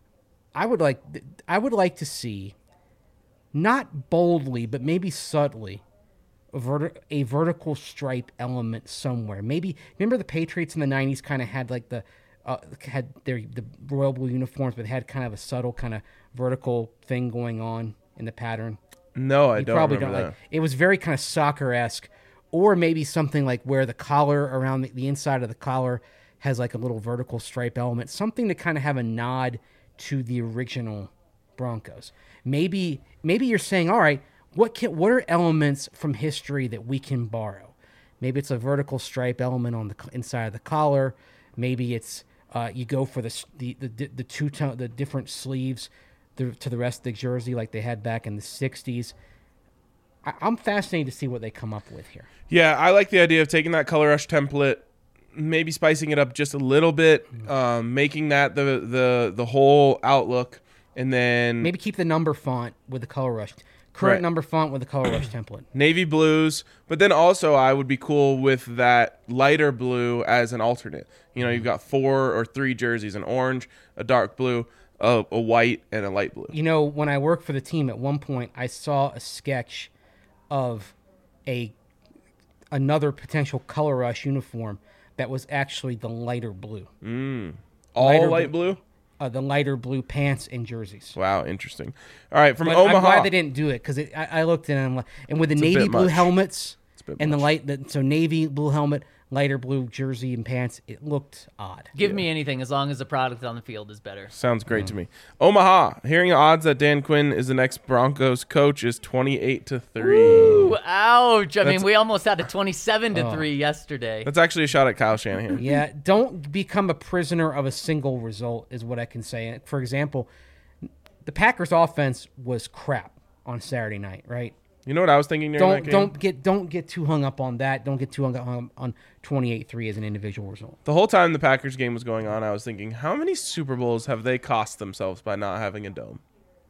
I would like I would like to see, not boldly but maybe subtly, a, verti- a vertical stripe element somewhere. Maybe remember the Patriots in the nineties kind of had like the uh, had their the royal blue uniforms, but they had kind of a subtle kind of vertical thing going on in the pattern. No, I You don't probably remember don't that. like. It was very kind of soccer-esque, or maybe something like where the collar around the, the inside of the collar has like a little vertical stripe element, something to kind of have a nod to the original Broncos. Maybe maybe you're saying, all right, what can what are elements from history that we can borrow? Maybe it's a vertical stripe element on the co- inside of the collar. Maybe it's uh, you go for the s- the the, the two tone the different sleeves the, to the rest of the jersey like they had back in the sixties. I, I'm fascinated to see what they come up with here. Yeah, I like the idea of taking that Color Rush template, maybe spicing it up just a little bit, um, making that the the the whole outlook, and then Maybe keep the number font with the Color Rush. Current Right. number font with the Color Rush template. navy blues. But then also, I would be cool with that lighter blue as an alternate. You know, you've got four or three jerseys: an orange, a dark blue, a, a white, and a light blue. You know, when I worked for the team at one point, I saw a sketch of a another potential Color Rush uniform that was actually the lighter blue. All lighter light blue. Uh, the lighter blue pants and jerseys. Wow, interesting. All right, from But Omaha. I'm glad they didn't do it because I, I looked at it and, I'm like, and with the a navy bit blue much. helmets a bit and the much. light, the, so navy blue helmet, lighter blue jersey and pants, it looked odd. Give me anything as long as the product on the field is better. Sounds great to me. Omaha, hearing odds that Dan Quinn is the next Broncos coach is twenty-eight to three. Ooh, ouch. I That's- mean, we almost had a twenty-seven to Oh. three yesterday. That's actually a shot at Kyle Shanahan. Yeah, don't become a prisoner of a single result is what I can say. For example, the Packers offense was crap on Saturday night, right? You know what I was thinking during Don't that game? don't get don't get too hung up on that. Don't get too hung up on, on twenty-eight three as an individual result. The whole time the Packers game was going on, I was thinking, how many Super Bowls have they cost themselves by not having a dome?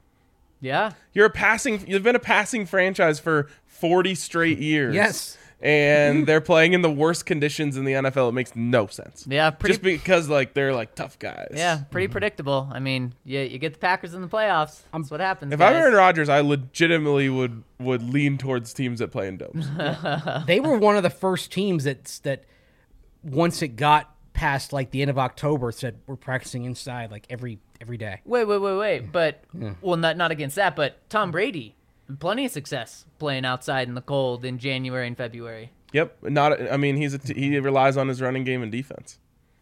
Yeah. You're a passing. You've been a passing franchise for forty straight years. Yes. And they're playing in the worst conditions in the N F L. It makes no sense. Yeah, pretty Just because like they're like tough guys. Yeah, pretty predictable. I mean, you, you get the Packers in the playoffs. That's what happens. If guys. I'm Aaron Rodgers, I legitimately would would lean towards teams that play in domes. They were one of the first teams that that once it got past like the end of October said we're practicing inside like every every day. Wait, wait, wait, wait. But well, not not against that, but Tom Brady, plenty of success playing outside in the cold in January and February. Yep. Not. I mean, he's a t- he relies on his running game and defense.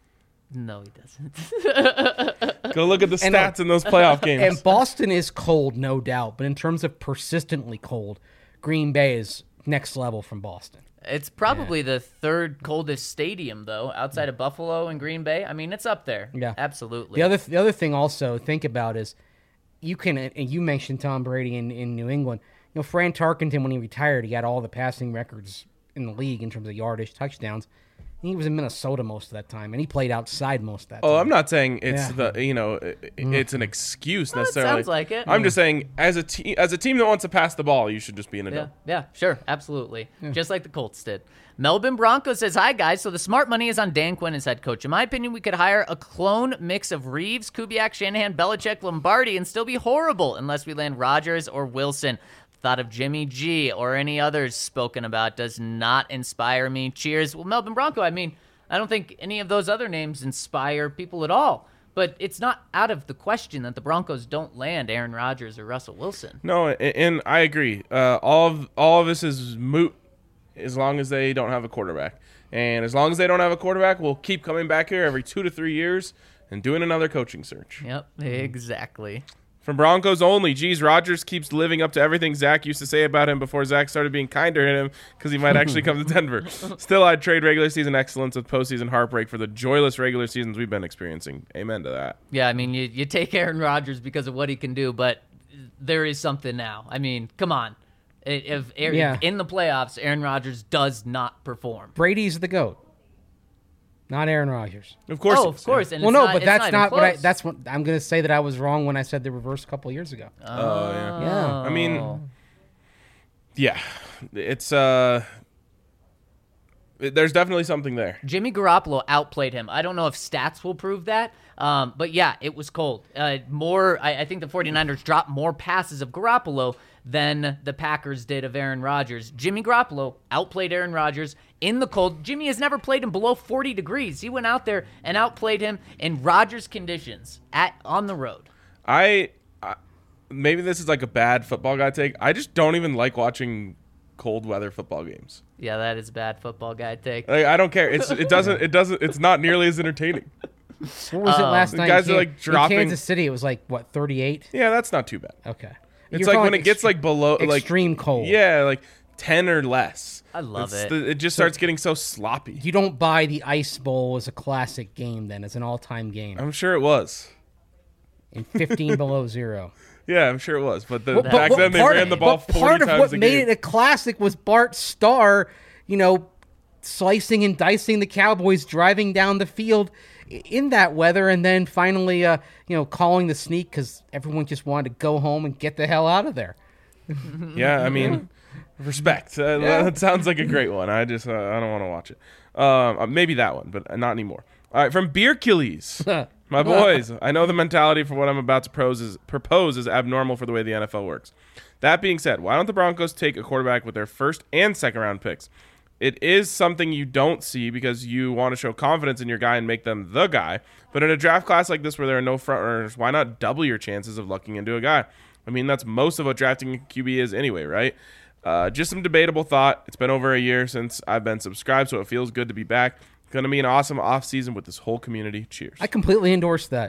No, he doesn't. Go look at the And, uh, stats in those playoff games. And Boston is cold, no doubt. But in terms of persistently cold, Green Bay is next level from Boston. It's probably the third coldest stadium, though, outside of Buffalo and Green Bay. I mean, it's up there. Yeah, Absolutely. The other the other thing also think about is you can and you mentioned Tom Brady in, in New England. You know, Fran Tarkenton, when he retired, he had all the passing records in the league in terms of yardage, touchdowns. He was in Minnesota most of that time, and he played outside most of that time. Oh, I'm not saying it's Yeah. the you know it, it's an excuse necessarily. sounds like it. I'm just saying as a team as a team that wants to pass the ball, you should just be in a Yeah, dome. yeah, sure, absolutely. Just like the Colts did. Melbourne Broncos says, hi, guys. So the smart money is on Dan Quinn as head coach. In my opinion, we could hire a clone mix of Reeves, Kubiak, Shanahan, Belichick, Lombardi, and still be horrible unless we land Rodgers or Wilson. Thought of Jimmy G or any others spoken about does not inspire me. Cheers. Well, Melbourne Bronco, I mean, I don't think any of those other names inspire people at all. But it's not out of the question that the Broncos don't land Aaron Rodgers or Russell Wilson. No, and, and I agree. Uh, all of all of this is moot as long as they don't have a quarterback. And as long as they don't have a quarterback, we'll keep coming back here every two to three years and doing another coaching search. Yep, exactly. From Broncos only, geez, Rodgers keeps living up to everything Zach used to say about him before Zach started being kinder to him because he might actually come to Denver. Still, I'd trade regular season excellence with postseason heartbreak for the joyless regular seasons we've been experiencing. Amen to that. Yeah, I mean, you, you take Aaron Rodgers because of what he can do, but there is something now. I mean, come on. If, if Yeah. in the playoffs, Aaron Rodgers does not perform. Brady's the GOAT, not Aaron Rodgers. Of course. Oh, he of is, course. yeah. And Well, it's no, not, but it's that's not, not, even what I. close. That's what I'm going to say that I was wrong when I said the reverse a couple years ago. Oh, yeah. Yeah. I mean, yeah, it's uh, it- there's definitely something there. Jimmy Garoppolo outplayed him. I don't know if stats will prove that, um, but yeah, it was cold. Uh, more, I, I think the 49ers dropped more passes of Garoppolo than the Packers did of Aaron Rodgers. Jimmy Garoppolo outplayed Aaron Rodgers in the cold. Jimmy has never played him below forty degrees. He went out there and outplayed him in Rodgers conditions at on the road. I, I maybe this is like a bad football guy take. I just don't even like watching cold weather football games. Yeah, that is a bad football guy take. Like, I don't care. It's it doesn't it doesn't it's not nearly as entertaining. What was it last the night? guys in are, Kan- like, dropping- in Kansas City. It was like what, thirty-eight? Yeah, that's not too bad. Okay. It's You're like talking when it gets extre- like below like extreme cold. Yeah, like ten or less. I love It's it. the- it just starts getting so sloppy. You don't buy the Ice Bowl as a classic game. Then as an all-time game I'm sure it was. in fifteen below zero. Yeah, I'm sure it was. But the, Well, back but then they part- ran the ball but forty part of times what a made game. it a classic was Bart Starr, you know, slicing and dicing the Cowboys, driving down the field i- in that weather, and then finally, uh, you know, calling the sneak because everyone just wanted to go home and get the hell out of there. Yeah, I mean, respect. Uh, Yeah. That sounds like a great one. I just uh, I don't want to watch it. Um, uh, maybe that one, but not anymore. All right, from Beer Achilles. My boys, I know the mentality for what I'm about to propose is, propose is abnormal for the way the N F L works. That being said, why don't the Broncos take a quarterback with their first and second round picks? It is something you don't see because you want to show confidence in your guy and make them the guy. But in a draft class like this where there are no front runners, why not double your chances of lucking into a guy? I mean, that's most of what drafting a Q B is anyway, right? Uh, just some debatable thought. It's been over a year since I've been subscribed, so it feels good to be back. Going to be an awesome offseason with this whole community. Cheers. I completely endorse that.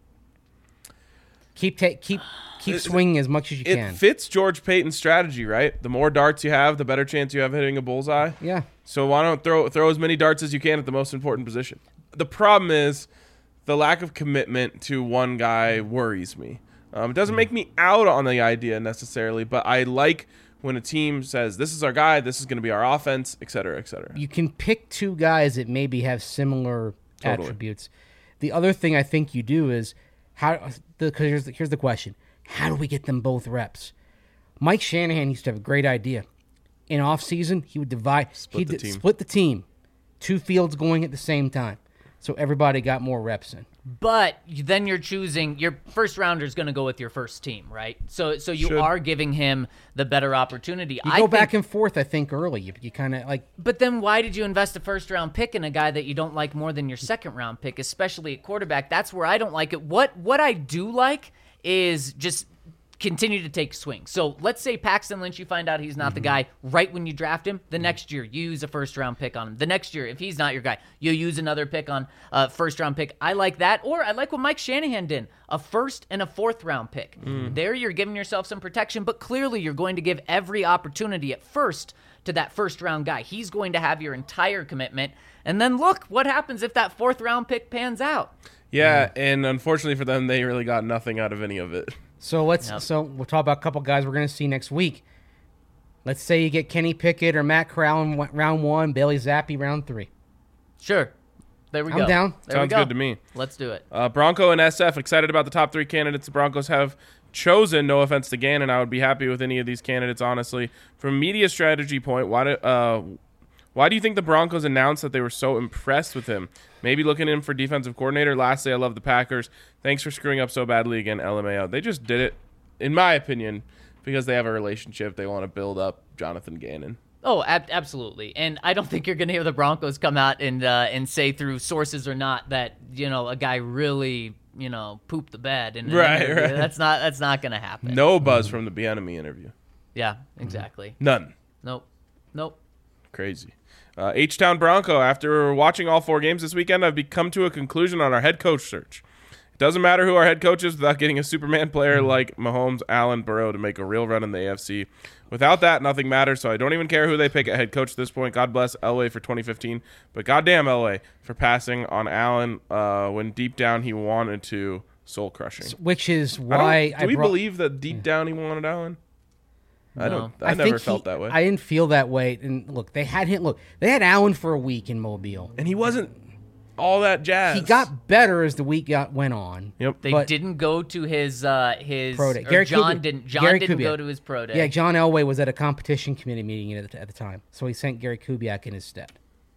Keep ta- keep keep swinging as much as you It can. fits George Payton's strategy, right? The more darts you have, the better chance you have hitting a bullseye. Yeah. So why don't throw throw as many darts as you can at the most important position? The problem is the lack of commitment to one guy worries me. Um, it doesn't make me out on the idea necessarily, but I like when a team says, this is our guy, this is going to be our offense, et cetera, et cetera. You can pick two guys that maybe have similar Totally. attributes. The other thing I think you do is how the cause here's the, here's the question: how do we get them both reps? Mike Shanahan used to have a great idea. In off season, he would divide, Split he'd the d- team. split the team, two fields going at the same time, so everybody got more reps in. But then you're choosing your first rounder is going to go with your first team, right? So so you Should. are giving him the better opportunity. You I go think, back and forth, I think, early. You, you kind of like but then why did you invest a first round pick in a guy that you don't like more than your second round pick, especially at quarterback? That's where I don't like it. What what I do like is just continue to take swings. So let's say Paxton Lynch, you find out he's not mm-hmm. the guy right when you draft him. The mm-hmm. next year, you use a first-round pick on him. The next year, if he's not your guy, you use another pick on a uh, first-round pick. I like that. Or I like what Mike Shanahan did, a first and a fourth-round pick. Mm. There you're giving yourself some protection, but clearly you're going to give every opportunity at first to that first-round guy. He's going to have your entire commitment. And then look what happens if that fourth-round pick pans out. Yeah, mm. and unfortunately for them, they really got nothing out of any of it. So let's. Yep. So we'll talk about a couple guys we're going to see next week. Let's say you get Kenny Pickett or Matt Corral in round one, Bailey Zappi round three. Sure. There we I'm go. I'm down. There Sounds we go. good to me. Let's do it. Uh, Bronco and S F excited about the top three candidates the Broncos have chosen. No offense to Gannon, I would be happy with any of these candidates, honestly. From a media strategy point, why do, uh, why do you think the Broncos announced that they were so impressed with him? Maybe looking in for defensive coordinator. Lastly, I love the Packers. Thanks for screwing up so badly again, L M A O. They just did it, in my opinion, because they have a relationship. They want to build up Jonathan Gannon. Oh, ab- absolutely. And I don't think you're going to hear the Broncos come out and uh, and say through sources or not that, you know, a guy really, you know, pooped the bed. And right, right. That's not that's not going to happen. No buzz from the Bieniemy interview. Yeah, exactly. None. Nope. Nope. Crazy. Uh, H-Town Bronco, after watching all four games this weekend, I've come to a conclusion on our head coach search. It doesn't matter who our head coach is without getting a Superman player like Mahomes, Allen, Burrow to make a real run in the A F C. Without that, nothing matters, so I don't even care who they pick at head coach at this point. God bless Elway for twenty fifteen, but goddamn Elway for passing on Allen uh, when deep down he wanted to, soul-crushing. Which is why I I, do we brought, believe that deep down he wanted Allen? I don't. No. I, I never think felt he, that way. I didn't feel that way. And look, they had him. Look, they had Allen for a week in Mobile, and he wasn't all that jazz. He got better as the week got, went on. Yep. They but, didn't go to his uh, his pro day. or Gary John Kubiak. didn't John Gary didn't Kubiak. go to his pro day. Yeah, John Elway was at a competition committee meeting at the, at the time, so he sent Gary Kubiak in his stead.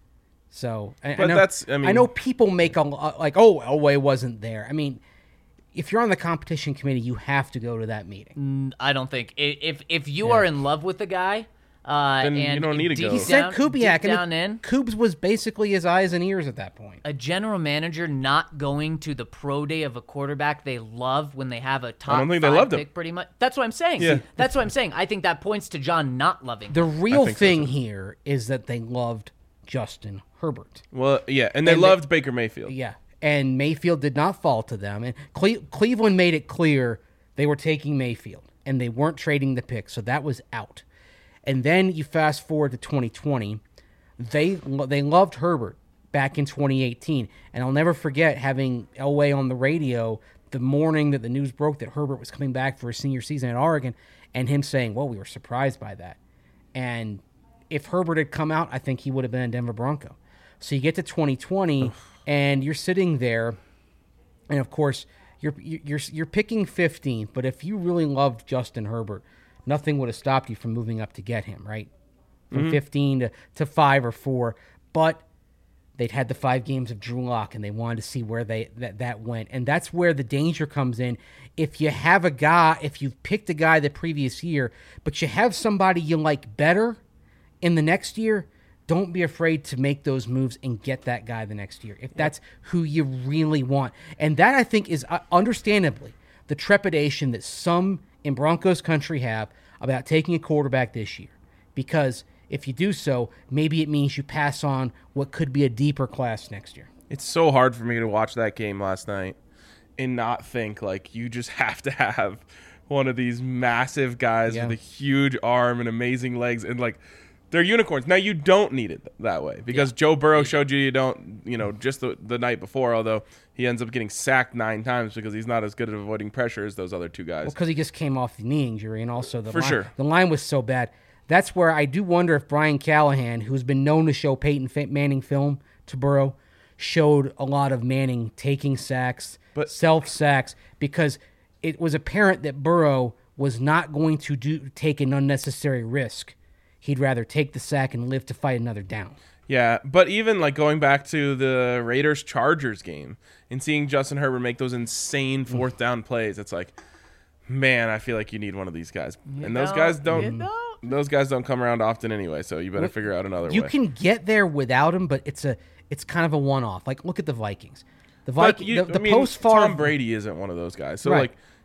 So, I, But I know, that's- I mean- I know people make a lo- like, oh, Elway wasn't there. I mean, if you're on the competition committee, you have to go to that meeting. I don't think I- if if you are in love with the guy, uh, Then you and don't need to deep go. He He sent down- Kubiak, deep and down it- in. Kubes was basically his eyes and ears at that point. A general manager not going to the pro day of a quarterback they love when they have a top don't think they five loved him. pick, pretty much. That's what I'm saying. Yeah. See, that's what I'm saying. I think that points to John not loving. The him. real think so, thing too. here is that they loved Justin Herbert. Well, yeah, and they And they- loved Baker Mayfield. Yeah, and Mayfield did not fall to them. And Cle- Cleveland made it clear they were taking Mayfield, and they weren't trading the pick, so that was out. And then you fast forward to twenty twenty, they they loved Herbert back in twenty eighteen, and I'll never forget having Elway on the radio the morning that the news broke that Herbert was coming back for his senior season at Oregon, and him saying, "Well, we were surprised by that." And if Herbert had come out, I think he would have been a Denver Bronco. So you get to twenty twenty, and you're sitting there, and of course you're you're you're picking fifteenth. But if you really loved Justin Herbert, nothing would have stopped you from moving up to get him, right? From Mm-hmm. fifteen to, to five or four. But they'd had the five games of Drew Lock, and they wanted to see where they that, that went. And that's where the danger comes in. If you have a guy, if you've picked a guy the previous year, but you have somebody you like better in the next year, don't be afraid to make those moves and get that guy the next year, if that's who you really want. And that, I think, is uh, understandably the trepidation that some in Broncos country have about taking a quarterback this year. Because if you do so, maybe it means you pass on what could be a deeper class next year. It's so hard for me to watch that game last night and not think, like, you just have to have one of these massive guys Yeah. with a huge arm and amazing legs, and, like, they're unicorns. Now, you don't need it that way because Joe Burrow showed you you don't, you know, just the, the night before, although he ends up getting sacked nine times because he's not as good at avoiding pressure as those other two guys. Well, because he just came off the knee injury, and also the For line, sure. the line was so bad. That's where I do wonder if Brian Callahan, who's been known to show Peyton Manning film to Burrow, showed a lot of Manning taking sacks, But- self-sacks, because it was apparent that Burrow was not going to do take an unnecessary risk. He'd rather take the sack and live to fight another down. Yeah, but even like going back to the Raiders-Chargers game and seeing Justin Herbert make those insane fourth down plays, it's like, man, I feel like you need one of these guys. and those don't, guys you don't, don't. those guys don't come around often anyway, so you better Look, figure out another You way. can get there without him, but it's a it's kind of a one-off. Like, look at the Vikings. The But Vikings, you, the, the I mean, post-Favre Tom Brady isn't one of those guys. So Right. like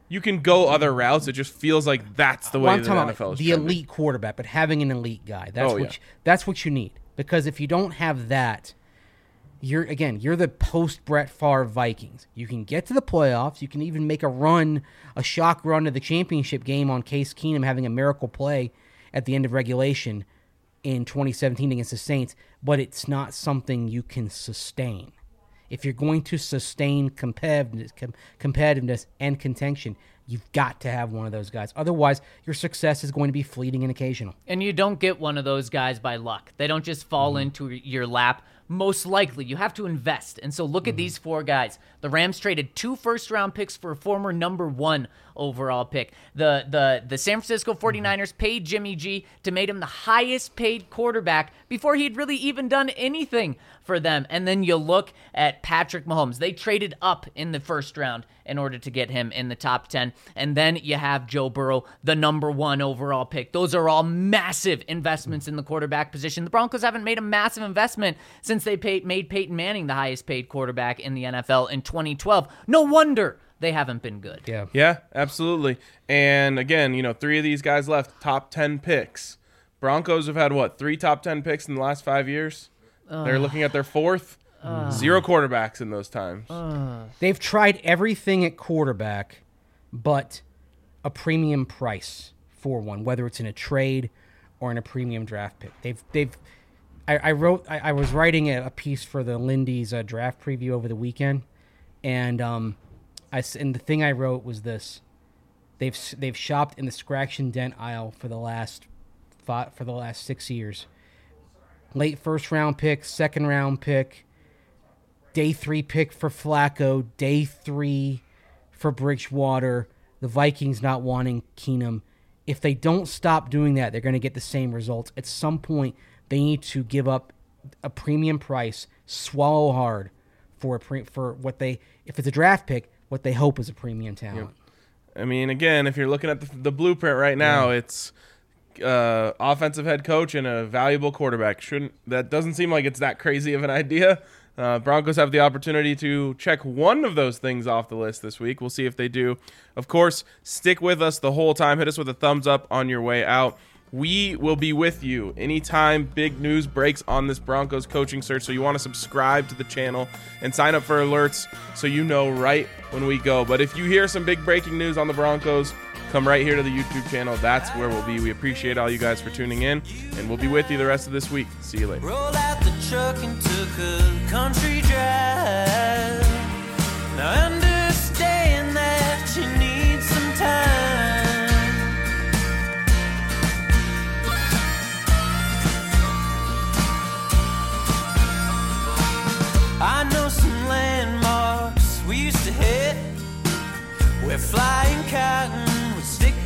you can go other routes. It just feels like that's the way Well, I'm the talking N F L about is the trending. elite quarterback, but having an elite guy. That's Oh, what yeah. you, that's what you need. Because if you don't have that, you're again, you're the post Brett Favre Vikings. You can get to the playoffs. You can even make a run, a shock run to the championship game on Case Keenum having a miracle play at the end of regulation in twenty seventeen against the Saints, but it's not something you can sustain. If you're going to sustain competitiveness, com- competitiveness and contention, you've got to have one of those guys. Otherwise, your success is going to be fleeting and occasional. And you don't get one of those guys by luck. They don't just fall Mm-hmm. into your lap. Most likely, you have to invest. And so look Mm-hmm. at these four guys. The Rams traded two first-round picks for a former number one overall pick. The the the San Francisco forty-niners Mm-hmm. paid Jimmy G to make him the highest-paid quarterback before he'd really even done anything for them. And then you look at Patrick Mahomes. They traded up in the first round in order to get him in the top ten. And then you have Joe Burrow, the number one overall pick. Those are all massive investments in the quarterback position. The Broncos haven't made a massive investment since they paid, made Peyton Manning the highest paid quarterback in the N F L in twenty twelve. No wonder they haven't been good. Yeah. Yeah, absolutely. And again, you know, three of these guys left, top ten picks. Broncos have had, what, three top ten picks in the last five years? They're looking at their fourth. Zero quarterbacks in those times. They've tried everything at quarterback but a premium price for one, whether it's in a trade or in a premium draft pick. They've they've I, I wrote I, I was writing a, a piece for the Lindy's uh, draft preview over the weekend, and um I s- and the thing I wrote was this: they've s- they've shopped in the scratch and dent aisle for the last five, for the last six years. Late first round pick, second round pick, day three pick for Flacco, day three for Bridgewater, the Vikings not wanting Keenum. If they don't stop doing that, they're going to get the same results. At some point, they need to give up a premium price, swallow hard for a pre- for what they, if it's a draft pick, what they hope is a premium talent. I mean, again, if you're looking at the, the blueprint right now, Yeah. it's uh, offensive head coach and a valuable quarterback. Shouldn't that doesn't seem like it's that crazy of an idea. Uh, Broncos have the opportunity to check one of those things off the list this week. We'll see if they do. Of course, stick with us the whole time. Hit us with a thumbs up on your way out. We will be with you anytime big news breaks on this Broncos coaching search. So you want to subscribe to the channel and sign up for alerts so you know right when we go. But if you hear some big breaking news on the Broncos, come right here to the YouTube channel. That's where we'll be. We appreciate all you guys for tuning in, and we'll be with you the rest of this week. See you later. Rolled out the truck and took a country drive. Now understand that you need some time. I know some landmarks we used to hit where flying cotton would stick